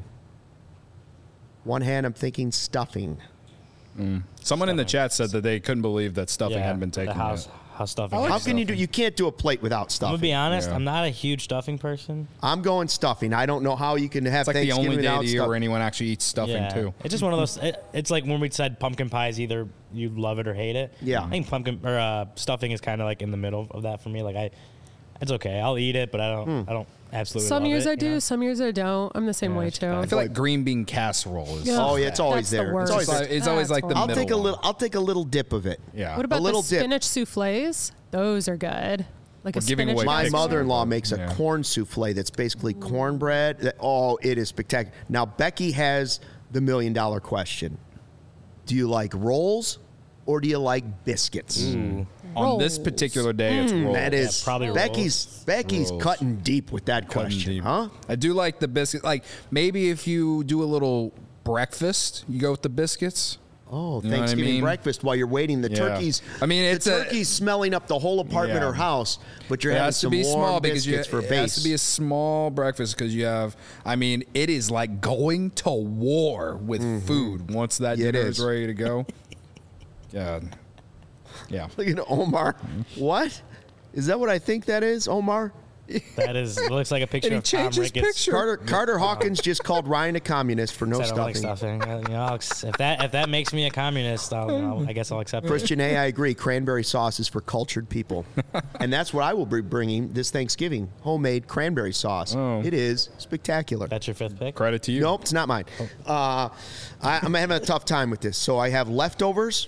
S1: One hand, I'm thinking stuffing.
S2: Someone in the chat said that they couldn't believe that stuffing
S3: yeah,
S2: hadn't been taken
S3: The house,
S2: yet.
S3: house stuffing.
S1: How can you do? You can't do a plate without
S3: I'm
S1: stuffing.
S3: gonna be honest.
S2: Yeah.
S3: I'm not a huge stuffing person.
S1: I'm going stuffing. I don't know how you can have
S2: It's like the
S1: Thanksgiving
S2: only day of
S1: without
S2: the year
S1: stuff.
S2: where anyone actually eats stuffing
S3: yeah.
S2: too.
S3: It's just one of those. It, it's like when we said pumpkin pies, either you love it or hate it.
S1: Yeah.
S3: I think pumpkin or uh, stuffing is kind of like in the middle of that for me. Like I, it's okay. I'll eat it, but I don't.
S1: Hmm.
S3: I don't absolutely.
S4: Some
S3: love
S4: years
S3: it,
S4: I
S3: you
S4: do,
S3: know?
S4: some years I don't. I'm the same
S3: Yeah,
S4: way
S3: it's
S4: too.
S3: fine.
S2: I feel like green bean casserole is.
S4: Yeah.
S1: Oh yeah, it's always
S4: That's the
S1: there. It's
S4: worst.
S1: always
S2: It's,
S1: there.
S2: it's always like the
S4: That's
S1: I'll
S2: middle
S1: take a
S2: one.
S1: little. I'll take a little dip of it.
S2: Yeah.
S4: What about
S1: little
S4: the
S1: dip.
S4: spinach souffles? Those are good. Like
S2: We're
S4: a
S2: giving
S4: spinach.
S2: away
S1: My
S2: picks.
S1: mother-in-law makes a
S2: Yeah.
S1: corn souffle that's basically cornbread. That- Oh, it is spectacular. Now Becky has the million-dollar question: do you like rolls or do you like biscuits?
S2: On this
S4: Rolls.
S2: particular day, it's rolls.
S1: That is
S3: probably
S1: Becky's. Becky's
S2: Rolls.
S1: cutting deep with that
S2: Cutting
S1: question,
S2: deep.
S1: huh?
S2: I do like the biscuit. Like maybe if you do a little breakfast, you go with the biscuits.
S1: Oh,
S2: You know what I
S1: Thanksgiving
S2: mean?
S1: breakfast while you're waiting. The
S2: Yeah.
S1: turkeys.
S2: I mean, it's
S1: the
S2: a-
S1: turkey's smelling up the whole apartment
S2: Yeah.
S1: or house, but you're
S2: It
S1: having
S2: has to
S1: some
S2: be
S1: warm
S2: small because you,
S1: biscuits for
S2: it
S1: base.
S2: has to be a small breakfast because you have. I mean, it is like going to war with food once that
S1: Yeah, it
S2: dinner
S1: is.
S2: is ready to go. Yeah, yeah.
S1: Look at Omar. What? Is that what I think that is, Omar?
S3: That is. It looks like a picture
S2: And he
S3: of Tom
S2: changed his
S3: Ricketts.
S2: picture.
S1: Carter Carter Hawkins just called Ryan a communist for no
S3: Said I don't like
S1: stuffing.
S3: stuffing. Uh, you know, I'll ex- if that if that makes me a communist, I'll, I'll, I guess I'll accept it.
S1: Christian A, I agree. Cranberry sauce is for cultured people, and that's what I will be bringing this Thanksgiving: homemade cranberry sauce.
S2: Oh.
S1: It is spectacular.
S3: That's your fifth pick.
S2: Credit to you.
S1: Nope, it's not mine. Uh, I, I'm having a tough time with this. So I have leftovers.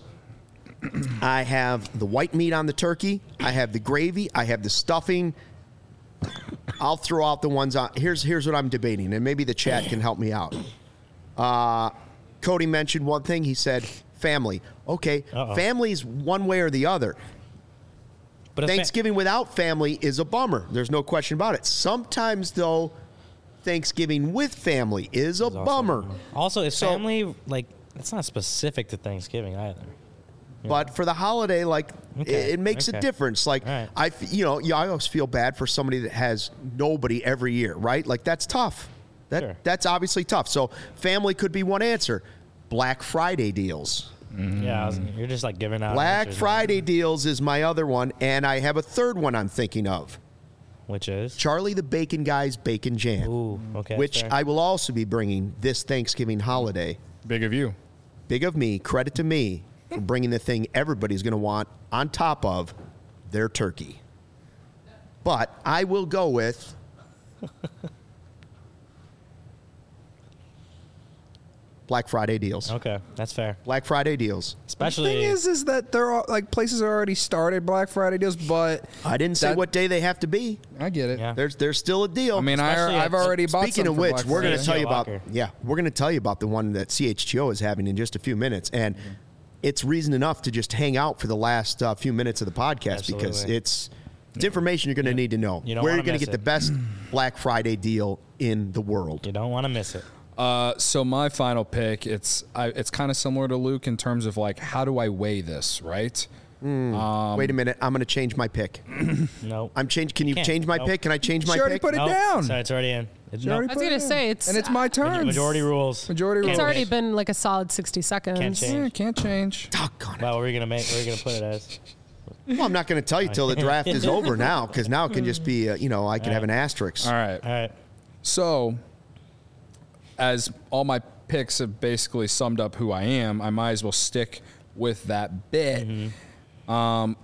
S1: I have the white meat on the turkey. I have the gravy. I have the stuffing. I'll throw out the ones on. Here's here's what I'm debating, and maybe the chat can help me out. Uh, Cody mentioned one thing. He said family. Okay,
S3: Uh-oh.
S1: family's one way or the other.
S3: But if fa-
S1: Thanksgiving without family is a bummer. There's no question about it. Sometimes though, Thanksgiving with family is a
S3: also-
S1: bummer.
S3: Also, is
S1: So-
S3: family like it's not specific to Thanksgiving either.
S1: But for the holiday, like
S3: Okay,
S1: it, it makes
S3: okay.
S1: a difference. Like
S3: All right.
S1: I, f- you know, yeah, I always feel bad for somebody that has nobody every year, right? Like that's tough. That
S3: Sure.
S1: that's obviously tough. So family could be one answer. Black Friday deals.
S3: Yeah, I was, you're just like giving out.
S1: Black
S3: answers,
S1: Friday deals is my other one, and I have a third one I'm thinking of.
S3: which is
S1: Charlie the Bacon Guy's Bacon Jam.
S3: Ooh, okay,
S1: Which
S3: fair.
S1: I will also be bringing this Thanksgiving holiday.
S2: Big of you.
S1: Big of me, credit to me for bringing the thing everybody's going to want on top of their turkey. But I will go with Black Friday deals.
S3: Okay, that's fair.
S1: Black Friday deals.
S3: Especially
S2: The thing is, is that there are like places are already started Black Friday deals, but
S1: I didn't say
S2: that-
S1: what day they have to be.
S2: I get it.
S3: Yeah.
S1: There's there's still a deal.
S2: I mean, I,
S3: Especially
S2: I've
S3: at-
S2: already bought
S1: Speaking
S2: some
S1: of
S2: for
S1: which,
S2: Black
S1: we're going to
S2: Friday.
S1: tell you
S3: C H G O
S1: about
S3: Locker.
S1: yeah, we're going to tell you about the one that C H G O is having in just a few minutes, and it's reason enough to just hang out for the last uh, few minutes of the podcast because
S3: Absolutely.
S1: it's it's information you're going to need to know.
S3: You don't
S1: Where
S3: wanna
S1: you're going to
S3: miss
S1: get the
S3: it.
S1: best Black Friday deal in the world.
S3: you don't want to miss it.
S2: Uh, so my final pick, it's I, it's kind of similar to Luke in terms of like how do I weigh this, right? Um,
S1: Wait a minute, I'm going to change my pick.
S3: No,
S1: I'm change. Can you
S3: Can't.
S1: change my
S3: Nope.
S1: pick? Can I change my
S2: She already
S1: pick?
S2: put it
S3: Nope.
S2: down.
S3: Sorry, it's already in. It's
S2: She
S3: no,
S2: already
S4: I was
S2: put it
S4: gonna
S2: in.
S4: say, it's-
S2: and it's my turn.
S3: majority rules.
S2: Majority rules.
S4: It's already
S3: Change.
S4: been like a solid sixty seconds.
S3: Can't change.
S2: Yeah, can't change.
S1: Doggone it.
S3: Wow, what are you gonna make? What are you gonna put it as?
S1: Well, I'm not going to tell you till the draft is over now because now it can just be uh, you know I can have an asterisk.
S2: All right.
S3: All right.
S2: So, as all my picks have basically summed up who I am, I might as well stick with that bit. Um,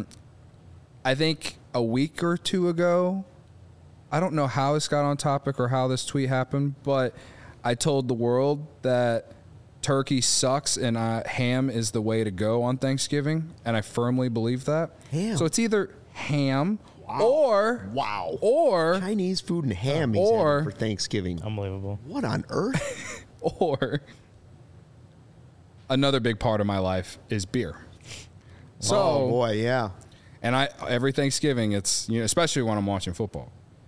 S2: I think a week or two ago, I don't know how this got on topic or how this tweet happened, but I told the world that turkey sucks and uh, ham is the way to go on Thanksgiving, and I firmly believe that.
S1: Ham.
S2: So it's either ham or
S1: Wow.
S2: or
S1: Chinese food and ham he's
S2: Or-
S1: having for Thanksgiving.
S3: Unbelievable.
S1: What on earth?
S2: or another big part of my life is beer. So,
S1: oh boy, yeah.
S2: and I every Thanksgiving, it's you know, especially when I'm watching football.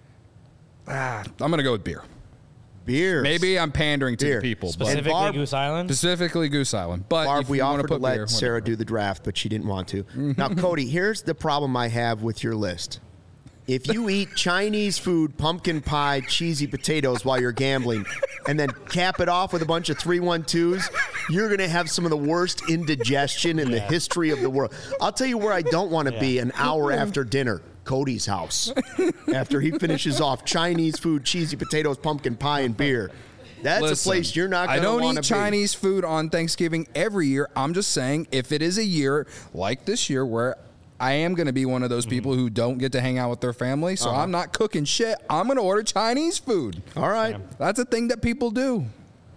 S2: Ah, I'm gonna go with beer.
S1: Beer.
S2: Maybe I'm pandering to
S1: Beer.
S2: the people, but
S3: Specifically,
S1: Barb-
S3: Goose Island.
S2: specifically Goose Island. But
S1: Barb,
S2: if
S1: we
S2: you wanna
S1: offered to
S2: put
S1: let
S2: beer,
S1: Sarah
S2: whatever.
S1: do the draft, but she didn't want to. Now, Cody, here's the problem I have with your list. If you eat Chinese food, pumpkin pie, cheesy potatoes while you're gambling, and then cap it off with a bunch of three one twos, you're going to have some of the worst indigestion in the
S3: Yeah.
S1: history of the world. I'll tell you where I don't want to
S3: Yeah.
S1: be an hour after dinner. Cody's house. After he finishes off Chinese food, cheesy potatoes, pumpkin pie, and beer. That's
S2: Listen,
S1: a place you're not going
S2: I
S1: to
S2: don't
S1: want
S2: eat
S1: to be.
S2: Chinese food on Thanksgiving every year. I'm just saying, if it is a year like this year where I am going to be one of those people who don't get to hang out with their family, so I'm not cooking shit. I'm going to order Chinese food.
S1: All right.
S2: That's a thing that people do.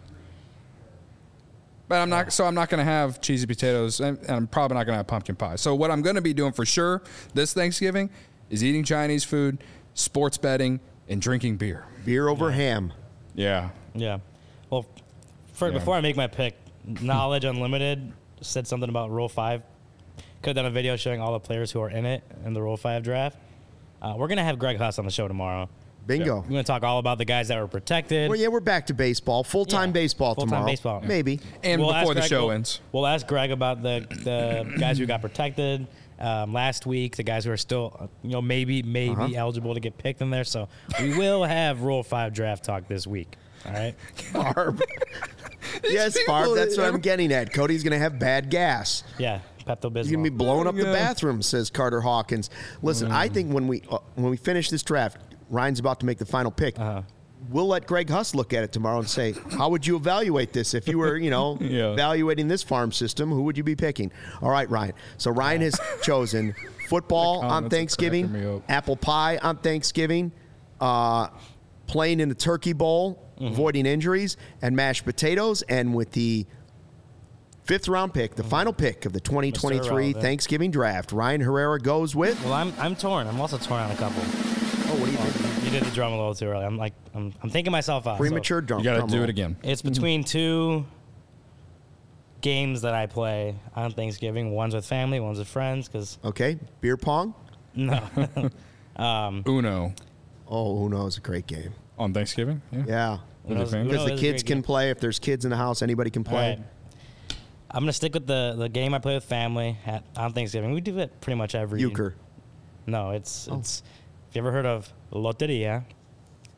S2: But I'm not, so I'm not going to have cheesy potatoes, and, and I'm probably not going to have pumpkin pie. So what I'm going to be doing for sure this Thanksgiving is eating Chinese food, sports betting, and drinking beer.
S1: Beer over ham.
S2: Yeah.
S3: Yeah. Well, for,
S2: Yeah.
S3: before I make my pick, Knowledge Unlimited said something about Rule five. Could have done a video showing all the players who are in it in the Rule five draft. Uh, we're going to have Greg Huss on the show tomorrow.
S1: Bingo.
S3: We're going to talk all about the guys that were protected.
S1: Well, yeah, we're back to baseball. Full-time
S3: Yeah.
S1: baseball
S3: Full-time
S1: tomorrow.
S3: baseball.
S1: Maybe.
S2: And
S3: We'll
S2: before
S3: ask
S2: the
S3: Greg-
S2: show
S3: we'll-
S2: ends.
S3: We'll ask Greg about the, the guys who got protected um, last week, the guys who are still, uh, you know, maybe maybe
S1: Uh-huh.
S3: eligible to get picked in there. So we will have Rule five draft talk this week. All right.
S1: Barb. yes,
S2: people-
S1: Barb, that's what I'm getting at. Cody's going to have bad gas.
S3: Yeah. Pepto
S1: He's going to be
S3: Bismol.
S1: blowing up the
S2: Yeah.
S1: bathroom, says Carter Hawkins. Listen, I think when we uh, when we finish this draft, Ryan's about to make the final pick.
S3: Uh-huh.
S1: We'll let Greg Huss look at it tomorrow and say, how would you evaluate this? If you were, you know,
S2: Yeah.
S1: evaluating this farm system, who would you be picking? All right, Ryan. So Ryan has chosen football
S2: The
S1: on
S2: comments are
S1: Thanksgiving,
S2: cracking me up.
S1: apple pie on Thanksgiving, uh, playing in the turkey bowl,
S2: Mm-hmm.
S1: avoiding injuries, and mashed potatoes. And with the fifth round pick, the final pick of the twenty twenty-three
S3: Irrelevant.
S1: Thanksgiving draft, Ryan Herrera goes with.
S3: Well, I'm I'm torn. I'm also torn on a couple.
S1: Oh, what do you think?
S3: You did the drum a little too early. I'm like I'm I'm thinking myself out. So
S1: Premature drum.
S2: You got to
S1: drum
S2: do
S1: roll.
S2: it again.
S3: it's between two games that I play on Thanksgiving. One's with family, one's with friends. Because
S1: Okay, beer pong.
S3: no,
S2: Uno
S1: Oh, Uno is a great game.
S2: on Thanksgiving. Yeah.
S1: Yeah,
S2: With your
S3: Uno's-
S2: family?
S1: because
S3: Uno
S1: the
S3: is a
S1: kids
S3: great
S1: can
S3: game.
S1: play. If there's kids in the house, anybody can
S3: All
S1: play.
S3: right. I'm gonna stick with the the game I play with family at, on Thanksgiving. We do it pretty much every
S1: Euchre.
S3: No, it's
S1: Oh.
S3: it's. Have you ever heard of Loteria?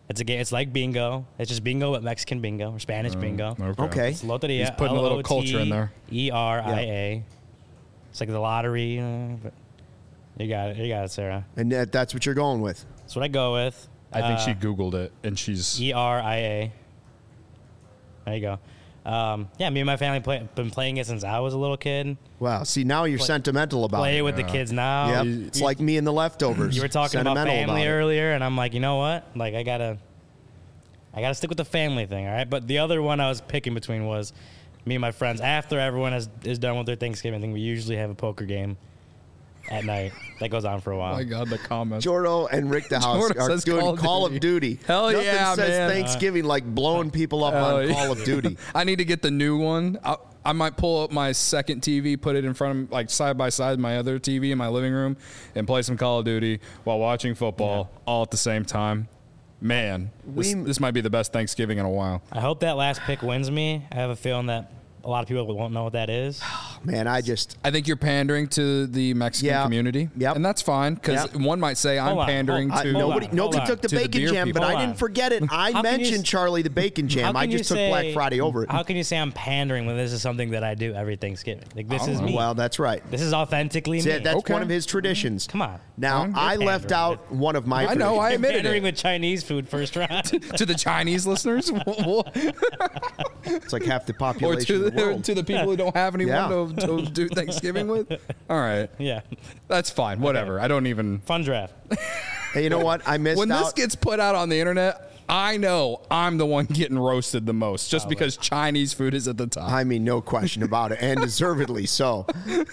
S3: It's a game. It's like bingo. It's just bingo, but Mexican bingo or Spanish bingo.
S1: Okay.
S3: It's Loteria.
S2: He's putting a little culture in there.
S3: E R I A. It's like the lottery. Uh, but you got it. You got it, Sarah.
S1: And that, that's what you're going with.
S3: That's what I go with.
S2: I think
S3: Uh,
S2: she Googled it, and she's
S3: E R I A. There you go. Um, yeah, me and my family play, been playing it since I was a little kid.
S1: Wow. See, now you're
S3: Play-
S1: sentimental about
S3: Play
S1: it.
S3: it with the kids now.
S1: Yep. It's like me and the leftovers.
S3: You were talking about
S1: Sentimental
S3: family
S1: it.
S3: earlier, and I'm like, you know what? Like, I gotta, I gotta stick with the family thing, all right? But the other one I was picking between was me and my friends. After everyone is, is done with their Thanksgiving thing, we usually have a poker game at night that goes on for a while.
S2: oh my god, the comments.
S1: Jordo and Rick the House
S2: Jordo
S1: are
S2: says
S1: doing
S2: Call
S1: Call,
S2: of
S1: of
S2: Duty.
S1: Duty.
S2: Hell
S1: Nothing
S2: yeah,
S1: says
S2: man.
S1: Thanksgiving like blowing people up
S2: Hell
S1: on
S2: yeah.
S1: Call of Duty.
S2: I need to get the new one. I, I might pull up my second T V, put it in front of, like, side by side my other T V in my living room, and play some Call of Duty while watching football all at the same time. Man, this,
S1: We-
S2: this might be the best Thanksgiving in a while.
S3: I hope that last pick wins me. I have a feeling that a lot of people won't know what that is.
S1: Man, I just
S2: I think you're pandering to the Mexican
S1: Yeah.
S2: community.
S1: Yep.
S2: And that's fine, because
S1: Yep.
S2: one might say I'm
S3: Hold on.
S2: pandering
S3: Hold-
S1: I,
S2: to.
S1: nobody
S3: on,
S1: nobody
S3: hold
S1: took the
S2: on. To the
S1: bacon
S2: beer
S1: jam,
S2: people.
S1: but I
S3: Hold
S1: didn't
S3: on.
S1: forget it. I
S3: How can you
S1: mentioned
S3: s-
S1: Charlie the Bacon
S3: How
S1: Jam. I
S3: can you
S1: just took
S3: say-
S1: Black Friday over it.
S3: How can you say I'm pandering when this is something that I do every Thanksgiving? Like, this is
S2: don't
S3: me.
S1: Well, that's right.
S3: This is authentically
S1: See,
S3: me.
S1: that's
S2: Okay.
S1: one of his traditions.
S3: Come on.
S1: Now,
S2: Fine.
S1: I
S3: You're
S1: left
S3: pandering.
S1: out one of my
S2: I know, I
S3: You're
S2: admitted
S3: pandering
S2: it.
S3: with Chinese food first round.
S2: To the Chinese listeners,
S1: It's like half the
S2: or
S1: population
S2: to
S1: of the
S2: the,
S1: world.
S2: to the people who don't have anyone
S1: Yeah.
S2: to, to do Thanksgiving with. All right,
S3: yeah.
S2: that's fine. Whatever. I don't even.
S3: Fun draft.
S1: Hey, you know what? I missed
S2: When
S1: out.
S2: this gets put out on the internet, I know I'm the one getting roasted the most, just because Chinese food is at the top.
S1: I mean, no question about it, and deservedly so.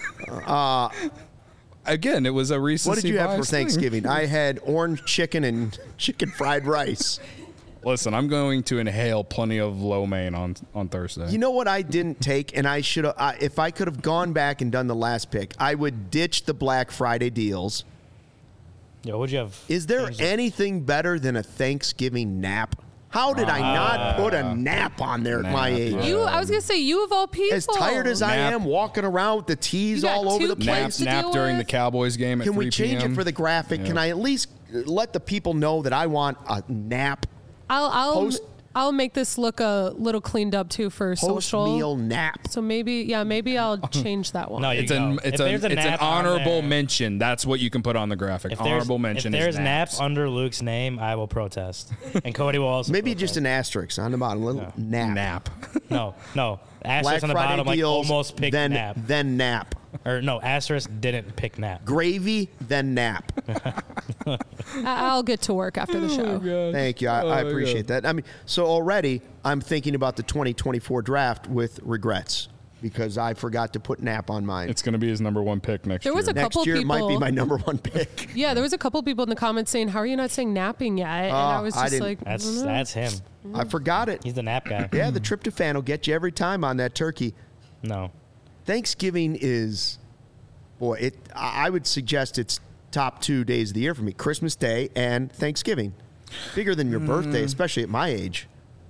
S2: Again, it was a recency
S1: What did you have for
S2: bias thing.
S1: Thanksgiving? I had orange chicken and chicken fried rice.
S2: Listen, I'm going to inhale plenty of lo mein on on Thursday.
S1: You know what I didn't take, and I should have. Uh, if I could have gone back and done the last pick, I would ditch the Black Friday deals.
S3: Yo, what'd you have?
S1: Is there
S3: Changed it.
S1: anything better than a Thanksgiving nap? How did I not put a nap on there at my
S2: Nap,
S1: age?
S2: yeah.
S4: You, I was gonna say you of all people.
S1: As tired as I
S2: Nap.
S1: am, walking around with the tees
S4: You got
S1: all over
S4: two
S1: the
S4: kids
S2: nap
S1: place.
S4: to
S2: nap
S4: deal
S2: during the
S4: with?
S2: Cowboys game at
S1: Can we
S2: three
S1: change
S2: p.m.
S1: it for the graphic? Can
S2: Yeah.
S1: I at least let the people know that I want a nap,
S4: I'll I'll
S1: Post-
S4: I'll make this look a little cleaned up too for
S1: post
S4: social.
S1: meal nap?
S4: So maybe yeah, maybe I'll change that one.
S3: No, you
S2: It's
S3: go.
S2: an it's,
S3: If
S2: a,
S3: there's a
S2: it's an
S3: nap on
S2: honorable
S3: there-
S2: mention. That's what you can put on the graphic.
S3: If there's,
S2: Honorable mention
S3: if there's
S2: is
S3: nap
S2: naps.
S3: under Luke's name, I will protest. And Cody will also
S1: Maybe
S3: protest.
S1: just an asterisk on the bottom, a little nap.
S2: nap.
S3: No, no.
S1: Black
S3: Asterisk on the
S1: Friday
S3: bottom, like
S1: deals,
S3: almost picked
S1: then
S3: nap.
S1: then nap.
S3: Or no, asterisk didn't pick nap.
S1: Gravy, then nap.
S4: I- I'll get to work after the show.
S1: Thank you. I,
S2: Oh,
S1: I
S2: my
S1: appreciate that. I mean, so already I'm thinking about the twenty twenty-four draft with regrets because I forgot to put nap on mine.
S2: It's going to be his number one pick next
S4: There was
S2: year.
S4: a
S1: Next
S4: couple
S1: year it might be
S4: people-
S1: my number one pick.
S4: Yeah, there was a couple people in the comments saying, "How are you not saying napping yet?" And I
S1: Oh,
S4: was
S1: I
S4: just
S1: didn't-
S4: like, I
S3: That's
S4: don't know.
S3: that's him.
S1: I forgot it.
S3: He's the nap guy.
S1: Yeah, the tryptophan will get you every time on that turkey.
S3: No.
S1: Thanksgiving is, boy, it. I I would suggest it's top two days of the year for me: Christmas Day and Thanksgiving. Bigger than your birthday, especially at my age.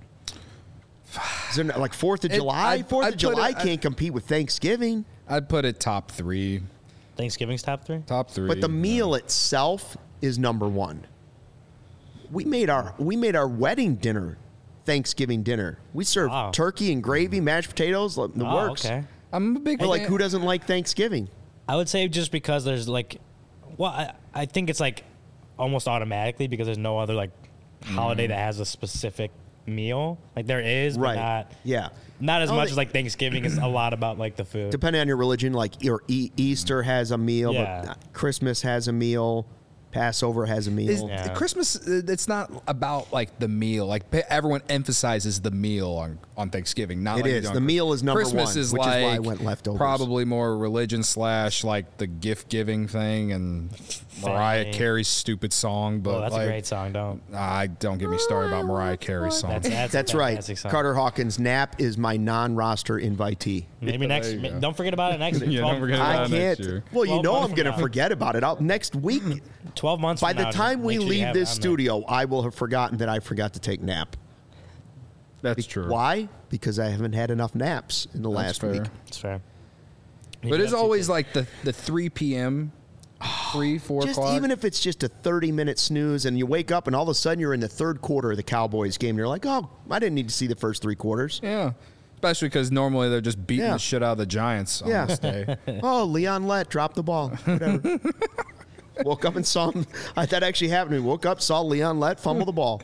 S1: Is there not, like Fourth of
S2: It-
S1: July?
S2: I'd-
S1: Fourth
S2: I'd
S1: of
S2: put
S1: July
S2: it- I'd-
S1: can't compete with Thanksgiving.
S2: I'd put it top three.
S3: Thanksgiving's top three?
S2: Top three.
S1: But the meal itself is number one. We made our we made our wedding dinner, Thanksgiving dinner. We served
S3: Wow.
S1: turkey and gravy, mashed potatoes, the
S3: Oh,
S1: works.
S3: okay.
S2: I'm a big
S1: But like,
S2: fan-
S1: who doesn't like Thanksgiving?
S3: I would say just because there's like, well, I, I think it's like almost automatically because there's no other like holiday that has a specific meal. Like there is, but
S1: Right.
S3: not
S1: Yeah.
S3: not as
S1: Oh,
S3: much
S1: they-
S3: as like Thanksgiving is a lot about like the food.
S1: Depending on your religion, like your e- Easter has a meal,
S3: Yeah.
S1: but Christmas has a meal, Passover has a meal.
S2: Is,
S3: Yeah.
S2: Christmas, uh, it's not about like the meal. Like pe- everyone emphasizes the meal on, on Thanksgiving. Not
S1: It
S2: like
S1: is.
S2: on
S1: The
S2: Chris-
S1: meal is number
S2: Christmas
S1: one,
S2: is
S1: which is
S2: like
S1: why I went leftovers.
S2: Probably more religion slash like the gift giving thing and Mariah
S3: Family.
S2: Carey's stupid song. But
S3: Oh, that's
S2: like,
S3: a great song. Don't.
S2: I don't get me started about Mariah Carey's song.
S3: That's that's,
S1: That's
S3: a
S1: right.
S3: fantastic song.
S1: Carter Hawkins' nap is my non-roster invitee.
S3: Maybe next.
S2: There you go.
S3: Don't forget about it next.
S2: Yeah,
S3: twelve,
S2: don't forget about
S1: I
S2: it next
S1: can't.
S2: year.
S1: Well, you
S3: twelve
S1: know
S3: months
S1: I'm
S3: from
S1: going to
S3: now.
S1: forget about it. I'll, next week,
S3: Twelve months.
S1: by
S3: from
S1: the
S3: now,
S1: time we
S3: make sure you
S1: leave
S3: have
S1: this
S3: it on there.
S1: studio, I will have forgotten that I forgot to take nap.
S2: That's true.
S1: Why? Because I haven't had enough naps in the
S2: That's
S1: last
S2: fair.
S1: week.
S3: It's fair.
S2: But it's always like the the three p.m. three, four
S1: just
S2: o'clock.
S1: even if it's just a thirty-minute snooze and you wake up and all of a sudden you're in the third quarter of the Cowboys game and you're like, oh, I didn't need to see the first three quarters.
S2: Yeah. Especially because normally they're just beating
S1: Yeah.
S2: the shit out of the Giants on
S1: Yeah.
S2: this day.
S1: Oh, Leon Lett dropped the ball. Whatever. Woke up and saw him. I, that actually happened to me. Woke up, saw Leon Lett fumble the ball.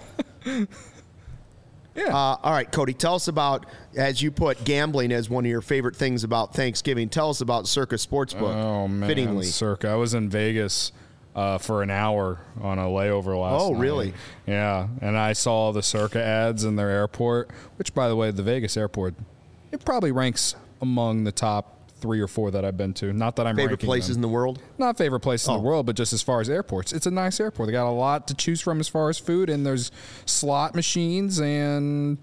S2: Yeah.
S1: Uh, all right, Cody, tell us about, as you put gambling as one of your favorite things about Thanksgiving, tell us about Circa Sportsbook.
S2: Oh, man.
S1: Fittingly.
S2: Circa. I was in Vegas uh, for an hour on a layover last
S1: Oh,
S2: night.
S1: really?
S2: Yeah. And I saw the Circa ads in their airport, which, by the way, the Vegas airport, it probably ranks among the top three or four that I've been to. Not that I'm
S1: Favorite
S2: ranking
S1: places
S2: them.
S1: in the world?
S2: Not favorite place in
S1: Oh.
S2: the world, but just as far as airports. It's a nice airport. They got a lot to choose from as far as food, and there's slot machines, and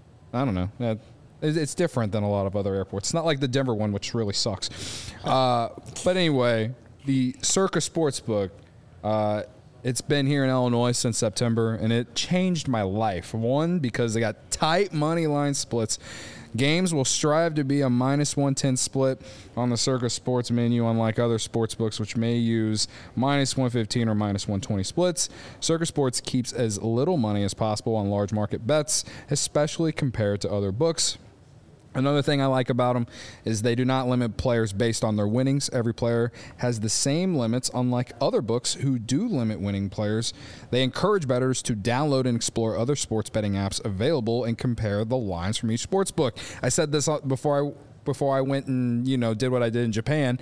S2: I don't know. That- it- It's different than a lot of other airports. It's not like the Denver one, which really sucks. Uh, but anyway, the Circa Sportsbook, uh, it's been here in Illinois since September, and it changed my life. One, because they got tight money line splits. Games will strive to be a minus one ten split on the Circa Sports menu, unlike other sports books, which may use minus one fifteen or minus one twenty splits. Circa Sports keeps as little money as possible on large market bets, especially compared to other books. Another thing I like about them is they do not limit players based on their winnings. Every player has the same limits, unlike other books who do limit winning players. They encourage bettors to download and explore other sports betting apps available and compare the lines from each sports book. I said this before I before I went and you know did what I did in Japan.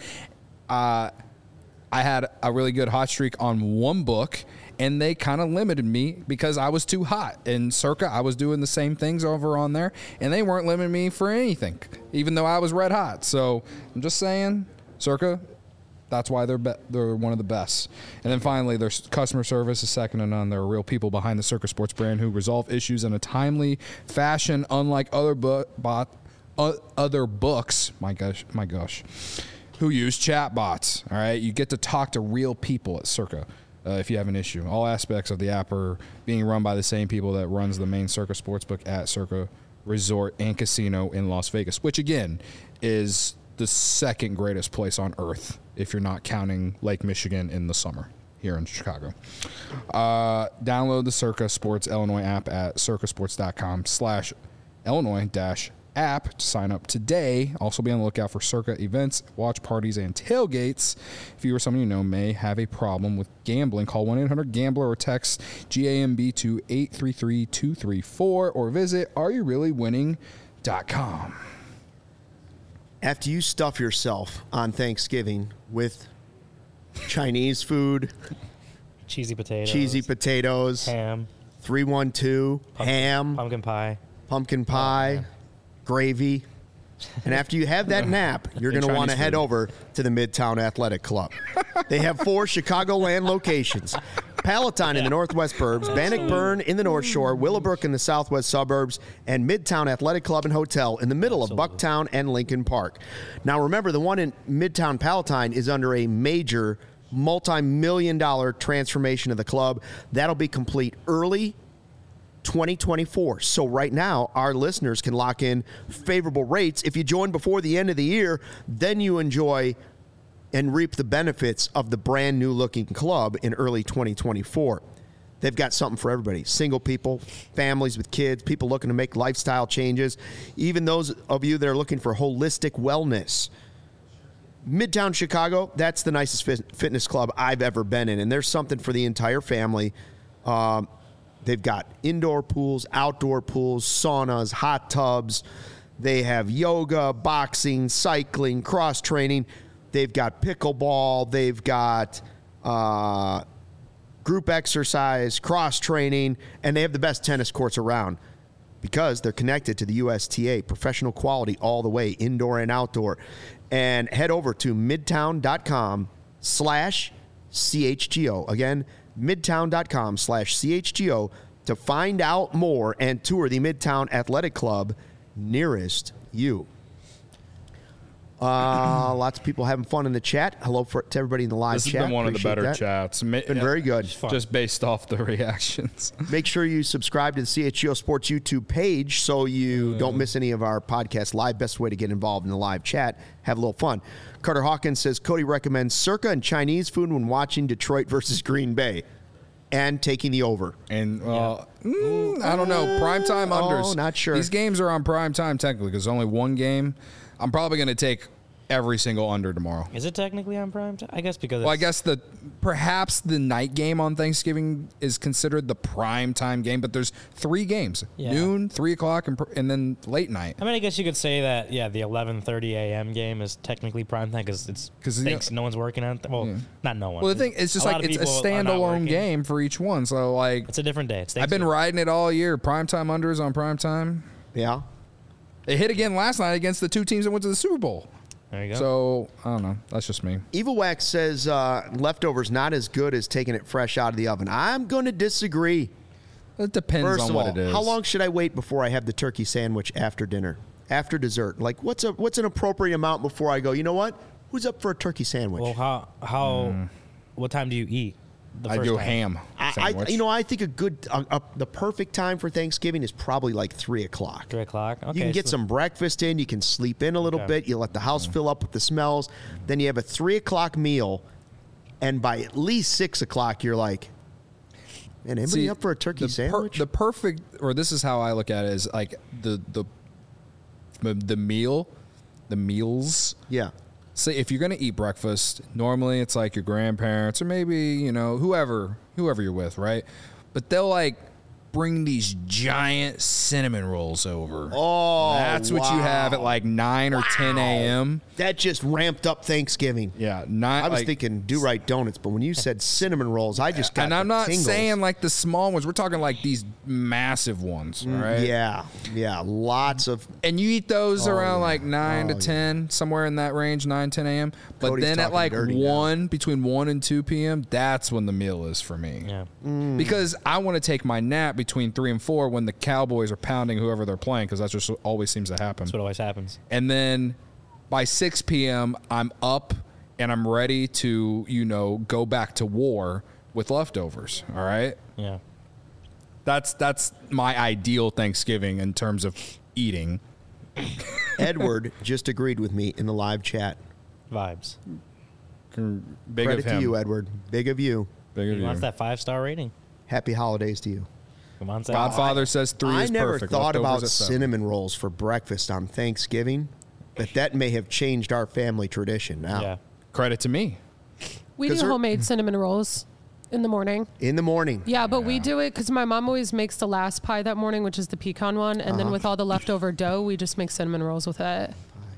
S2: Uh, I had a really good hot streak on one book, and they kind of limited me because I was too hot. In Circa, I was doing the same things over on there, and they weren't limiting me for anything, even though I was red hot. So I'm just saying, Circa, that's why they're be- they're one of the best. And then finally, their customer service is second to none. There are real people behind the Circa Sports brand who resolve issues in a timely fashion, unlike other bu- bot, uh, other books. My gosh, my gosh. Who use chat bots. All right, you get to talk to real people at Circa uh, if you have an issue. All aspects of the app are being run by the same people that runs the main Circa Sportsbook at Circa Resort and Casino in Las Vegas, which again is the second greatest place on earth if you're not counting Lake Michigan in the summer here in Chicago. Uh, download the Circa Sports Illinois app at circasports.com slash Illinois dash app to sign up today. Also be on the lookout for Circa events, watch parties, and tailgates. If you or someone you know may have a problem with gambling, call one eight hundred gambler or text G A M B to eight three three two three four or visit are you really winning dot com.
S1: After you stuff yourself on Thanksgiving with Chinese food,
S3: Cheesy potatoes.
S1: cheesy potatoes,
S3: ham.
S1: three one two,
S3: Pumpkin,
S1: ham,
S3: Pumpkin pie.
S1: pumpkin pie,
S3: man.
S1: gravy. And after you have that nap, you're going to
S2: Chinese
S1: want to head
S2: food.
S1: over to the Midtown Athletic Club. They have four Chicagoland locations. Palatine in the northwest burbs, Bannockburn in the North Shore, Willowbrook in the southwest suburbs, and Midtown Athletic Club and Hotel in the middle of Bucktown and Lincoln Park. Now remember, the one in Midtown Palatine is under a major multi-million dollar transformation of the club. That'll be complete early twenty twenty-four. So right now, our listeners can lock in favorable rates. If you join before the end of the year, then you enjoy and reap the benefits of the brand new looking club in early twenty twenty-four. They've got something for everybody. Single people, families with kids, people looking to make lifestyle changes, even those of you that are looking for holistic wellness. Midtown Chicago, that's the nicest fit- fitness club I've ever been in, and there's something for the entire family. Um, they've got indoor pools, outdoor pools, saunas, hot tubs. They have yoga, boxing, cycling, cross-training. They've got pickleball. They've got uh, group exercise, cross-training, and they have the best tennis courts around because they're connected to the U S T A, professional quality all the way, indoor and outdoor. And head over to midtown.com slash CHGO. Again, midtown.com slash CHGO to find out more and tour the Midtown Athletic Club nearest you. Uh, lots of people having fun in the chat. Hello for, to everybody in the live
S2: This has
S1: chat.
S2: been one of the
S1: Appreciate
S2: better
S1: that.
S2: chats. Ma-
S1: Been very good.
S2: Just based off the reactions.
S1: Make sure you subscribe to the C H G O Sports YouTube page so you don't miss any of our podcast live. Best way to get involved in the live chat. Have a little fun. Carter Hawkins says Cody recommends Circa and Chinese food when watching Detroit versus Green Bay and taking the over.
S2: And uh, mm, I don't know. Primetime unders.
S1: Oh, not sure.
S2: These games are on prime time technically because only one game. I'm probably going to take every single under tomorrow.
S3: Is it technically on prime time? I guess because
S2: Well, I
S3: it's-
S2: guess the perhaps the night game on Thanksgiving is considered the prime time game, but there's three games:
S3: Yeah.
S2: noon, three o'clock, and, pr- and then late night.
S3: I mean, I guess you could say that. Yeah, the eleven thirty a.m. game is technically prime time because it's
S2: 'Cause, you
S3: thanks.
S2: know-
S3: No one's working on. Th- well,
S2: Yeah.
S3: not no one.
S2: Well, the thing is just
S3: lot
S2: like
S3: of
S2: it's a
S3: people are not
S2: standalone
S3: working.
S2: game for each one. So like,
S3: It's a different day. It's
S2: I've been
S3: Thanksgiving.
S2: riding it all year. Prime time unders on prime time.
S1: Yeah.
S2: It hit again last night against the two teams that went to the Super Bowl.
S3: There you go.
S2: So I don't know. That's just me.
S1: Evil Wax says uh, leftovers not as good as taking it fresh out of the oven. I'm going to disagree.
S2: It depends
S1: First
S2: on
S1: of
S2: what
S1: all,
S2: it is.
S1: how long should I wait before I have the turkey sandwich after dinner, after dessert? Like, what's a what's an appropriate amount before I go? You know what? Who's up for a turkey sandwich?
S3: well, how how what time do you eat? The
S2: I
S3: first
S2: do
S3: time?
S2: ham
S1: I,
S2: sandwich.
S1: I, you know, I think a good, uh, uh, the perfect time for Thanksgiving is probably like three o'clock.
S3: Three o'clock. Okay,
S1: You can get
S3: so-
S1: some breakfast in. You can sleep in a little
S3: Okay.
S1: bit. You let the house fill up with the smells. Then you have a three o'clock meal, and by at least six o'clock, you're like, man, anybody
S2: See,
S1: up for a turkey
S2: the per-
S1: sandwich?
S2: the perfect, or this is how I look at it, is like the the the, the meal, the meals.
S1: yeah.
S2: Say if you're gonna eat breakfast, normally it's like your grandparents or maybe you know whoever whoever you're with, right? But they'll like bring these giant cinnamon rolls over.
S1: Oh,
S2: That's what you have at
S1: wow.
S2: like nine or ten a.m.
S1: That just ramped up Thanksgiving.
S2: Yeah, nine.
S1: I was
S2: like,
S1: thinking do right donuts, but when you said cinnamon rolls, I just got
S2: and I'm
S1: the
S2: not
S1: tingles.
S2: saying like the small ones. We're talking like these massive ones, right?
S1: Yeah, yeah, lots of.
S2: And you eat those
S1: Oh,
S2: around
S1: yeah.
S2: like nine
S1: Oh,
S2: to ten, somewhere in that range, nine, ten a.m. But
S1: Cody's
S2: then at
S1: talking
S2: like
S1: dirty now.
S2: one, between one and two p.m., that's when the meal is for me.
S3: Yeah.
S1: Mm.
S2: Because I want to take my nap between three and four when the Cowboys are pounding whoever they're playing, because that just always seems to happen.
S3: That's what always happens.
S2: And then by six p.m., I'm up and I'm ready to, you know, go back to war with leftovers. All right.
S3: Yeah.
S2: That's that's my ideal Thanksgiving in terms of eating.
S1: Edward just agreed with me in the live chat.
S3: Vibes.
S2: Big
S1: Credit
S2: of him.
S1: to you, Edward. Big of you.
S2: Big of
S3: He
S2: you.
S3: wants that five star rating.
S1: Happy holidays to you.
S3: Come on, say
S2: Godfather says three
S1: I
S2: is
S1: never
S2: perfect.
S1: thought
S2: Leftovers
S1: about
S2: at seven.
S1: cinnamon rolls for breakfast on Thanksgiving, but that may have changed our family tradition now.
S3: Yeah.
S2: Credit to me.
S4: We
S1: 'Cause
S4: do
S1: they're-
S4: homemade cinnamon rolls in the morning.
S1: In the morning.
S4: Yeah, but we do it because my mom always makes the last pie that morning, which is the pecan one, and
S1: Uh-huh.
S4: then with all the leftover dough, we just make cinnamon rolls with it.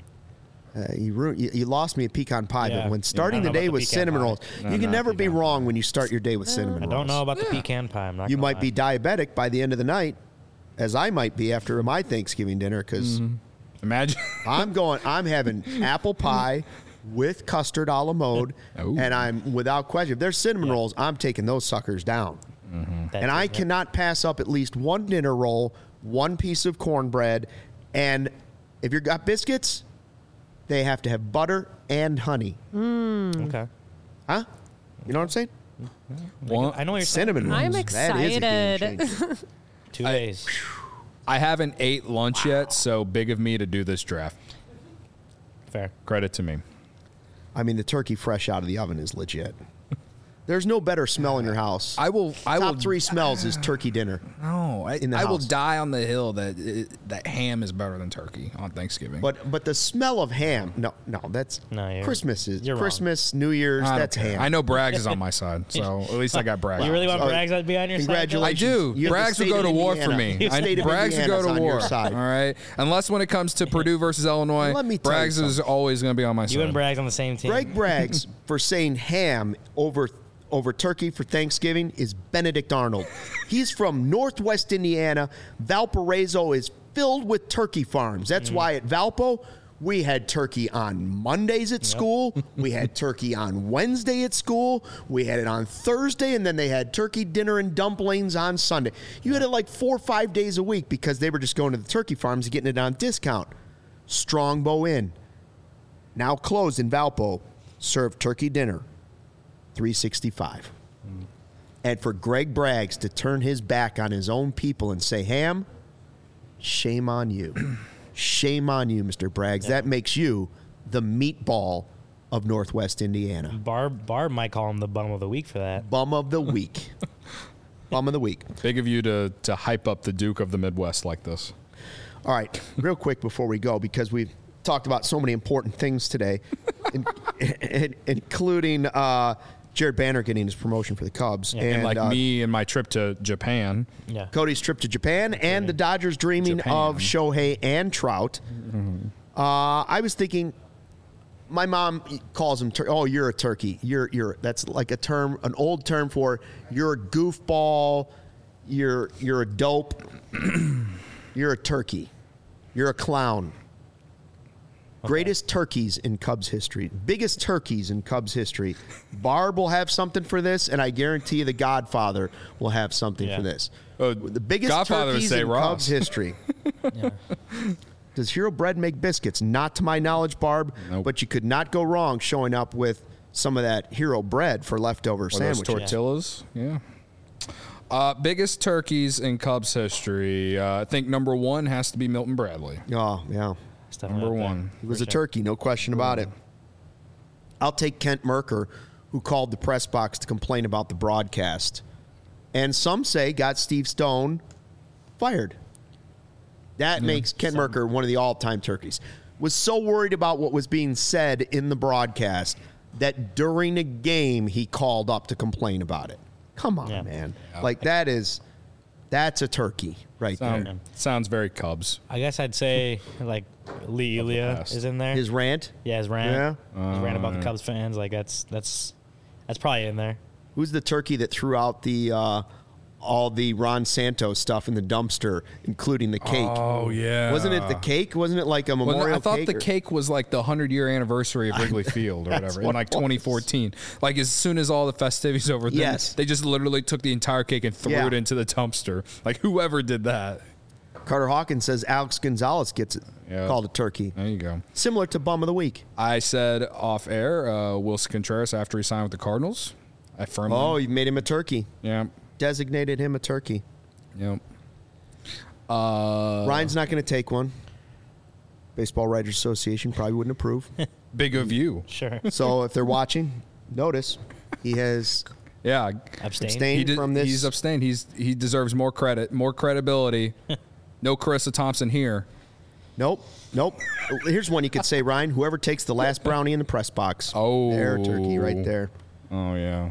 S1: Uh, you, ru- you you lost me at pecan pie,
S3: Yeah.
S1: but when
S3: Yeah,
S1: starting
S3: I
S1: the
S3: don't know
S1: day
S3: about the
S1: with
S3: pecan
S1: cinnamon
S3: pie.
S1: rolls,
S2: No,
S1: you can
S2: not
S1: never be
S2: pecan
S1: wrong when you start your day with cinnamon
S3: I
S1: rolls.
S3: don't know about the pecan pie. I'm not
S1: You
S3: gonna
S1: might
S3: lie.
S1: be diabetic by the end of the night, as I might be after my Thanksgiving dinner, because
S2: Imagine.
S1: I'm going. I'm having apple pie with custard a la mode,
S2: Ooh.
S1: and I'm without question. If there's cinnamon rolls, I'm taking those suckers down.
S3: That
S1: And I
S3: is-
S1: cannot pass up at least one dinner roll, one piece of cornbread, and if you've got biscuits, they have to have butter and honey.
S3: Okay.
S1: Huh? You know what I'm saying?
S2: One,
S3: I know what you're saying.
S1: Cinnamon rolls.
S4: I'm
S1: That is a game
S4: excited.
S1: changer.
S3: Two days.
S2: I haven't ate lunch yet, so big of me to do this draft.
S3: Fair.
S2: Credit to me.
S1: I mean, the turkey fresh out of the oven is legit. There's no better smell in your house.
S2: I will. I
S1: Top
S2: will.
S1: three smells is turkey dinner.
S2: No, I,
S1: in the
S2: I will
S1: house.
S2: die on the hill that it, that ham is better than turkey on Thanksgiving.
S1: But but the smell of ham, no, no, that's
S3: No, you're-
S1: Christmas is
S3: you're wrong.
S1: Christmas, New Year's,
S2: I don't
S1: that's
S2: care.
S1: ham.
S2: I know Braggs is on my side, so at least I got Braggs.
S3: You really want
S1: Oh,
S3: Braggs to be on your side?
S1: congratulations.
S2: I do.
S1: You have the
S2: Braggs would
S1: state
S2: go
S1: of
S2: to war for
S1: Indiana.
S2: me.
S1: The
S2: I,
S1: state of
S2: Braggs would
S1: Indiana's
S2: go to
S1: on your
S2: war.
S1: side.
S2: All right. Unless when it comes to Purdue versus Illinois,
S1: Let me tell you
S2: Braggs is
S1: something.
S2: always going to be on my side.
S3: You and Braggs on the same team.
S1: Greg Braggs for saying ham over over turkey for Thanksgiving is Benedict Arnold. He's from Northwest Indiana. Valparaiso is filled with turkey farms. That's
S3: Mm.
S1: why at Valpo we had turkey on Mondays at school. We had turkey on Wednesday at school. We had it on Thursday, and then they had turkey dinner and dumplings on Sunday. You had it like four or five days a week because they were just going to the turkey farms and getting it on discount. Strongbow Inn. now closed in Valpo, served turkey dinner, three sixty-five. Mm. And for Greg Braggs to turn his back on his own people and say, Ham, shame on you. Shame on you, Mister Braggs. Yeah. That makes you the meatball of Northwest Indiana.
S3: Barb, Barb might call him the bum of the week for that.
S1: Bum of the week. Bum of the week.
S2: Big of you to, to hype up the Duke of the Midwest like this.
S1: All right, real quick before we go, because we've talked about so many important things today, in, in, including uh, Jared Banner getting his promotion for the Cubs.
S2: Yeah. And, and like uh, me and my trip to Japan.
S3: Yeah.
S1: Cody's trip to Japan and the Dodgers dreaming Japan. of Shohei and Trout. Mm-hmm. Uh, I was thinking, my mom calls him, tur- oh, you're a turkey. You're you're That's like a term, an old term for you're a goofball, you're you're a dope, you're a turkey. You're a clown. Okay. Greatest turkeys in Cubs history. Biggest turkeys in Cubs history. Barb will have something for this, and I guarantee you the Godfather will have something yeah. for this.
S2: Uh,
S1: the biggest
S2: Godfather
S1: turkeys
S2: say
S1: in
S2: Ross.
S1: Cubs history.
S3: yeah.
S1: Does Hero Bread make biscuits? Not to my knowledge, Barb, nope. But you could not go wrong showing up with some of that Hero Bread for leftover
S2: or
S1: sandwiches.
S2: Those tortillas, yeah. yeah. Uh, biggest turkeys in Cubs history. Uh, I think number one has to be Milton Bradley.
S1: Oh, yeah.
S2: Number one.
S1: He was a turkey, no question about it. I'll take Kent Merker, who called the press box to complain about the broadcast. And some say got Steve Stone fired. That yeah, makes Kent some. Merker one of the all-time turkeys. Was so worried about what was being said in the broadcast that during a game he called up to complain about it. Come on, yeah. man. Yeah. Like, that is, that's a turkey right
S2: Sound,
S1: there.
S2: Sounds very Cubs.
S3: I guess I'd say, like, Lee Elia is in there.
S1: His rant?
S3: Yeah, his rant.
S1: Yeah.
S3: His
S2: Uh,
S3: rant about
S2: yeah.
S3: the Cubs fans. Like, that's that's that's probably in there.
S1: Who's the turkey that threw out the uh, all the Ron Santos stuff in the dumpster, including the cake?
S2: Oh, yeah.
S1: Wasn't it the cake? Wasn't it like a memorial
S2: well, I thought
S1: cake
S2: the
S1: or?
S2: cake was like the hundred-year anniversary of Wrigley Field or whatever in like twenty fourteen. Like, as soon as all the festivities over,
S1: yes.
S2: they just literally took the entire cake and threw
S1: yeah.
S2: it into the dumpster. Like, whoever did that.
S1: Carter Hawkins says Alex Gonzalez gets it
S2: yeah.
S1: called a turkey.
S2: There you go.
S1: Similar to Bum of the Week.
S2: I said off air, uh, Wilson Contreras after he signed with the Cardinals. I firmly.
S1: Oh, you made him a turkey.
S2: Yeah.
S1: Designated him a turkey.
S2: Yep. Uh,
S1: Ryan's not going to take one. Baseball Writers Association probably wouldn't approve.
S2: Big of you.
S3: Sure.
S1: So if they're watching, notice he has
S2: yeah
S3: abstained,
S1: abstained
S2: he did,
S1: from this.
S2: He's abstained. He's he deserves more credit, more credibility. No Carissa Thompson here.
S1: Nope. Nope. Here's one you could say, Ryan. Whoever takes the last brownie in the press box.
S2: Oh.
S1: There, turkey right there.
S2: Oh, yeah.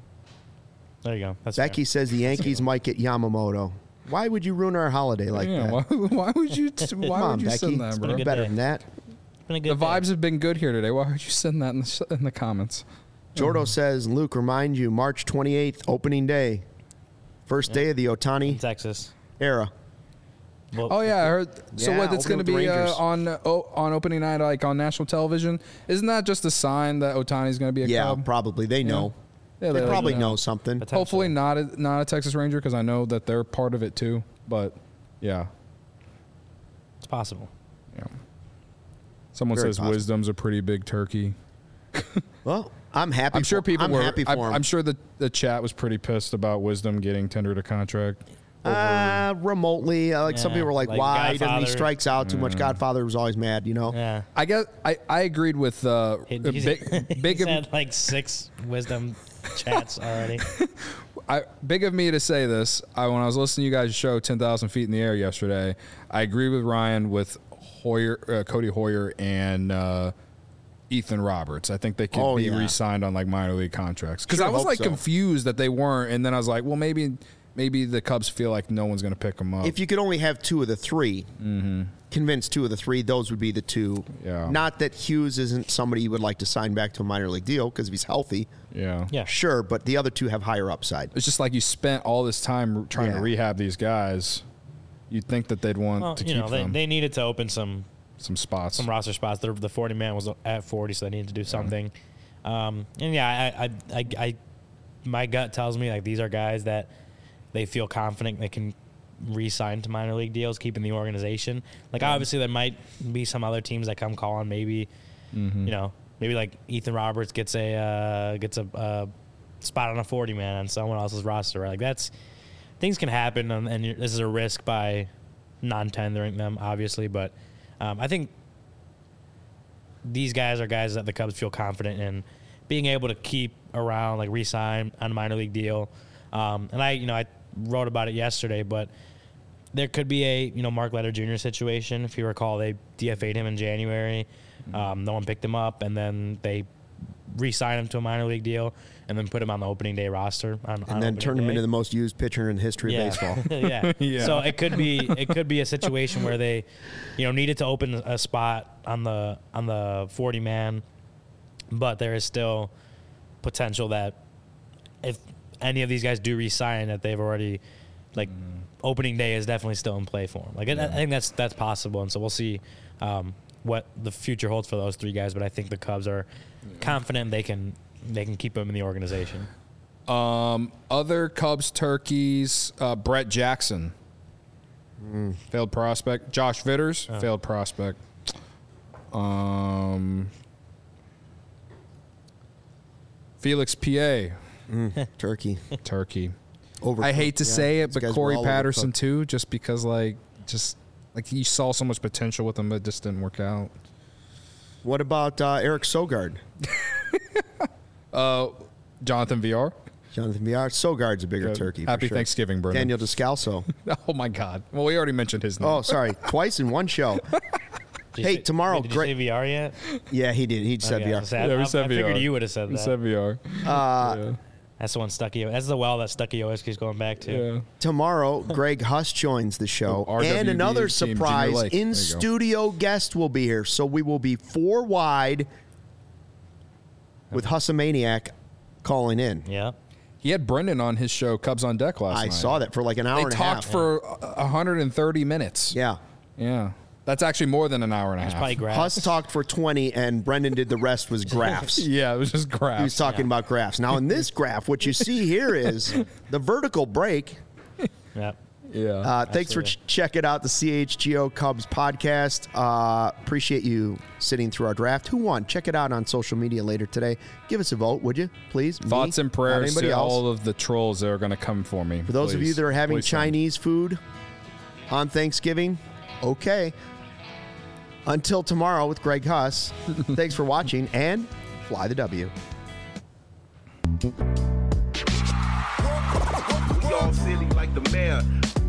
S3: There you go. That's
S1: Becky
S3: fair.
S1: says the Yankees might get Yamamoto. Why would you ruin our holiday like
S2: yeah,
S1: that?
S2: Why, why would you t- Why
S1: Come on,
S2: would you
S1: Becky.
S2: send that, bro?
S3: good
S1: Better
S3: day.
S1: than that.
S3: It's been a good
S2: The
S3: day.
S2: vibes have been good here today. Why would you send that in the, in the comments?
S1: Jordo says, Luke, remind you, March twenty-eighth, opening day. First
S3: Yeah.
S1: day of the
S3: in
S1: Ohtani
S3: Texas.
S1: era.
S3: Well,
S2: Oh yeah, I heard. So
S1: Yeah,
S2: what? It's going to
S1: opening with
S2: be
S1: the
S2: uh,
S1: Rangers.
S2: on uh, oh, on opening night, like on national television. Isn't that just a sign that Otani's going to be a
S1: Yeah,
S2: Cub?
S1: probably. They know.
S2: Yeah,
S1: They
S2: like,
S1: probably
S2: you
S1: know something.
S3: Potentially.
S2: Hopefully not a, not a Texas Ranger because I know that they're part of it too. But yeah,
S3: It's possible.
S2: yeah. Someone
S1: Very
S2: says
S1: possible.
S2: Wisdom's a pretty big turkey.
S1: Well, I'm happy.
S2: I'm sure
S1: for,
S2: people
S1: I'm
S2: were.
S1: happy for
S2: I'm,
S1: him.
S2: I'm sure the the chat was pretty pissed about Wisdom getting tendered a contract.
S1: Uh, remotely, uh, like some
S3: Yeah,
S1: people were like,
S3: like
S1: "Why doesn't he
S3: Godfather.
S1: strikes out too much?" Godfather was always mad, you know.
S3: Yeah.
S2: I guess I, I agreed with uh,
S3: He,
S2: uh,
S3: he's,
S2: big
S3: he's
S2: big of,
S3: had like six wisdom chats already.
S2: I, big of me to say this. I, when I was listening to you guys' show, ten thousand Feet in the Air yesterday, I agree with Ryan with Hoyer, uh, Cody Hoyer, and uh, Ethan Roberts. I think they could
S1: Oh,
S2: be
S1: yeah.
S2: re-signed on like minor league contracts. Because
S1: Sure
S2: I was
S1: hope
S2: like
S1: so.
S2: confused that they weren't, and then I was like, well, maybe maybe the Cubs feel like no one's going to pick them up.
S1: If you could only have two of the 3 mm-hmm. convince two of the three, those would be the two.
S2: Yeah.
S1: Not that Hughes isn't somebody you would like to sign back to a minor league deal because if he's healthy,
S2: yeah,
S3: Yeah.
S1: sure. But the other two have higher upside.
S2: it's just like you spent all this time trying
S1: Yeah.
S2: to rehab these guys. You'd think that they'd want
S3: Well,
S2: to
S3: you
S2: keep
S3: know, they,
S2: them
S3: they needed to open some
S2: some spots.
S3: some roster spots. The, the forty man was at forty, so they needed to do something. Um, and yeah, I, I, I, I, my gut tells me like these are guys that they feel confident they can re-sign to minor league deals, keeping the organization. Like obviously there might be some other teams that come calling, maybe you know, maybe like Ethan Roberts gets a uh, gets a uh, spot on a forty man on someone else's roster. Right? Like that's things can happen, and, and this is a risk by non-tendering them, obviously. But um, I think these guys are guys that the Cubs feel confident in being able to keep around, like re-sign on a minor league deal. Um, and I, you know, I wrote about it yesterday, but there could be a, you know, Mark Leiter Junior situation. If you recall, they D F A'd him in January. Um, no one picked him up, and then they re-signed him to a minor league deal and then put him on the opening day roster. On,
S1: and
S3: on
S1: then turn him
S3: day.
S1: into the most used pitcher in the history
S3: yeah.
S1: of baseball.
S3: yeah.
S2: Yeah.
S3: So it could be it could be a situation where they, you know, needed to open a spot on the on the forty man, but there is still potential that if any of these guys do re-sign, that they've already like mm. opening day is definitely still in play for them. Like yeah. I, I think that's that's possible, and so we'll see um, what the future holds for those three guys. But I think the Cubs are yeah. confident they can they can keep them in the organization.
S2: Um, other Cubs turkeys, uh, Brett Jackson, mm. failed prospect. Josh Vitters, oh. failed prospect. Um, Felix P A,
S1: mm. turkey,
S2: turkey.
S1: Overcooked.
S2: I hate to
S1: yeah.
S2: say it,
S1: These
S2: but Corey Patterson
S1: overcooked.
S2: too, just because like just like you saw so much potential with him, but it just didn't work out.
S1: What about uh, Eric Sogard?
S2: uh, Jonathan V R.
S1: Jonathan V R. Sogard's a bigger
S2: Good.
S1: turkey.
S2: Happy
S1: for sure.
S2: Thanksgiving, Brendan.
S1: Daniel Descalso.
S2: Oh my God. Well, we already mentioned his name.
S1: Oh, sorry, twice in one show. Hey,
S3: say,
S1: tomorrow.
S3: Wait, did
S1: great.
S3: You say V R yet?
S1: Yeah, he did. He said
S3: okay,
S1: V R.
S3: I,
S2: Yeah, we
S3: I,
S2: said
S3: I
S2: V R.
S3: figured you would have said that.
S2: We said V R.
S1: Uh,
S2: yeah.
S3: That's the one Stucky. That's the well that Stucky always keeps going back to.
S2: Yeah.
S1: Tomorrow, Greg Huss joins the show,
S2: Oh, R W B
S1: and another
S2: team,
S1: surprise
S2: Junior Lake.
S1: in
S2: There you go.
S1: studio guest will be here. So we will be four wide with Hussamaniac calling in.
S3: Yeah.
S2: He had Brendan on his show, Cubs on Deck, last
S1: I
S2: night.
S1: saw that for like an hour
S2: They
S1: and a
S2: talked
S1: half.
S2: for one hundred thirty minutes.
S1: Yeah.
S2: Yeah. That's actually more than an hour and a
S3: It's
S2: half.
S3: probably graphs.
S1: Huss talked for twenty, and Brendan did the rest was graphs.
S2: Yeah, it was just graphs.
S1: He was talking about graphs. Now, in this graph, what you see here is the vertical break.
S3: Yep.
S2: Yeah.
S1: Uh, thanks for ch- checking out the C H G O Cubs podcast. Uh, appreciate you sitting through our draft. Who won? Check it out on social media later today. Give us a vote, would you? Please.
S2: Thoughts
S1: Me,
S2: and prayers
S1: not anybody
S2: to
S1: else.
S2: all of the trolls that are going to come for me.
S1: For those of
S2: Please.
S1: you that are having
S2: Please send.
S1: Chinese food on Thanksgiving, okay. Until tomorrow with Greg Huss, thanks for watching, and fly the W.
S5: We all silly like the mayor.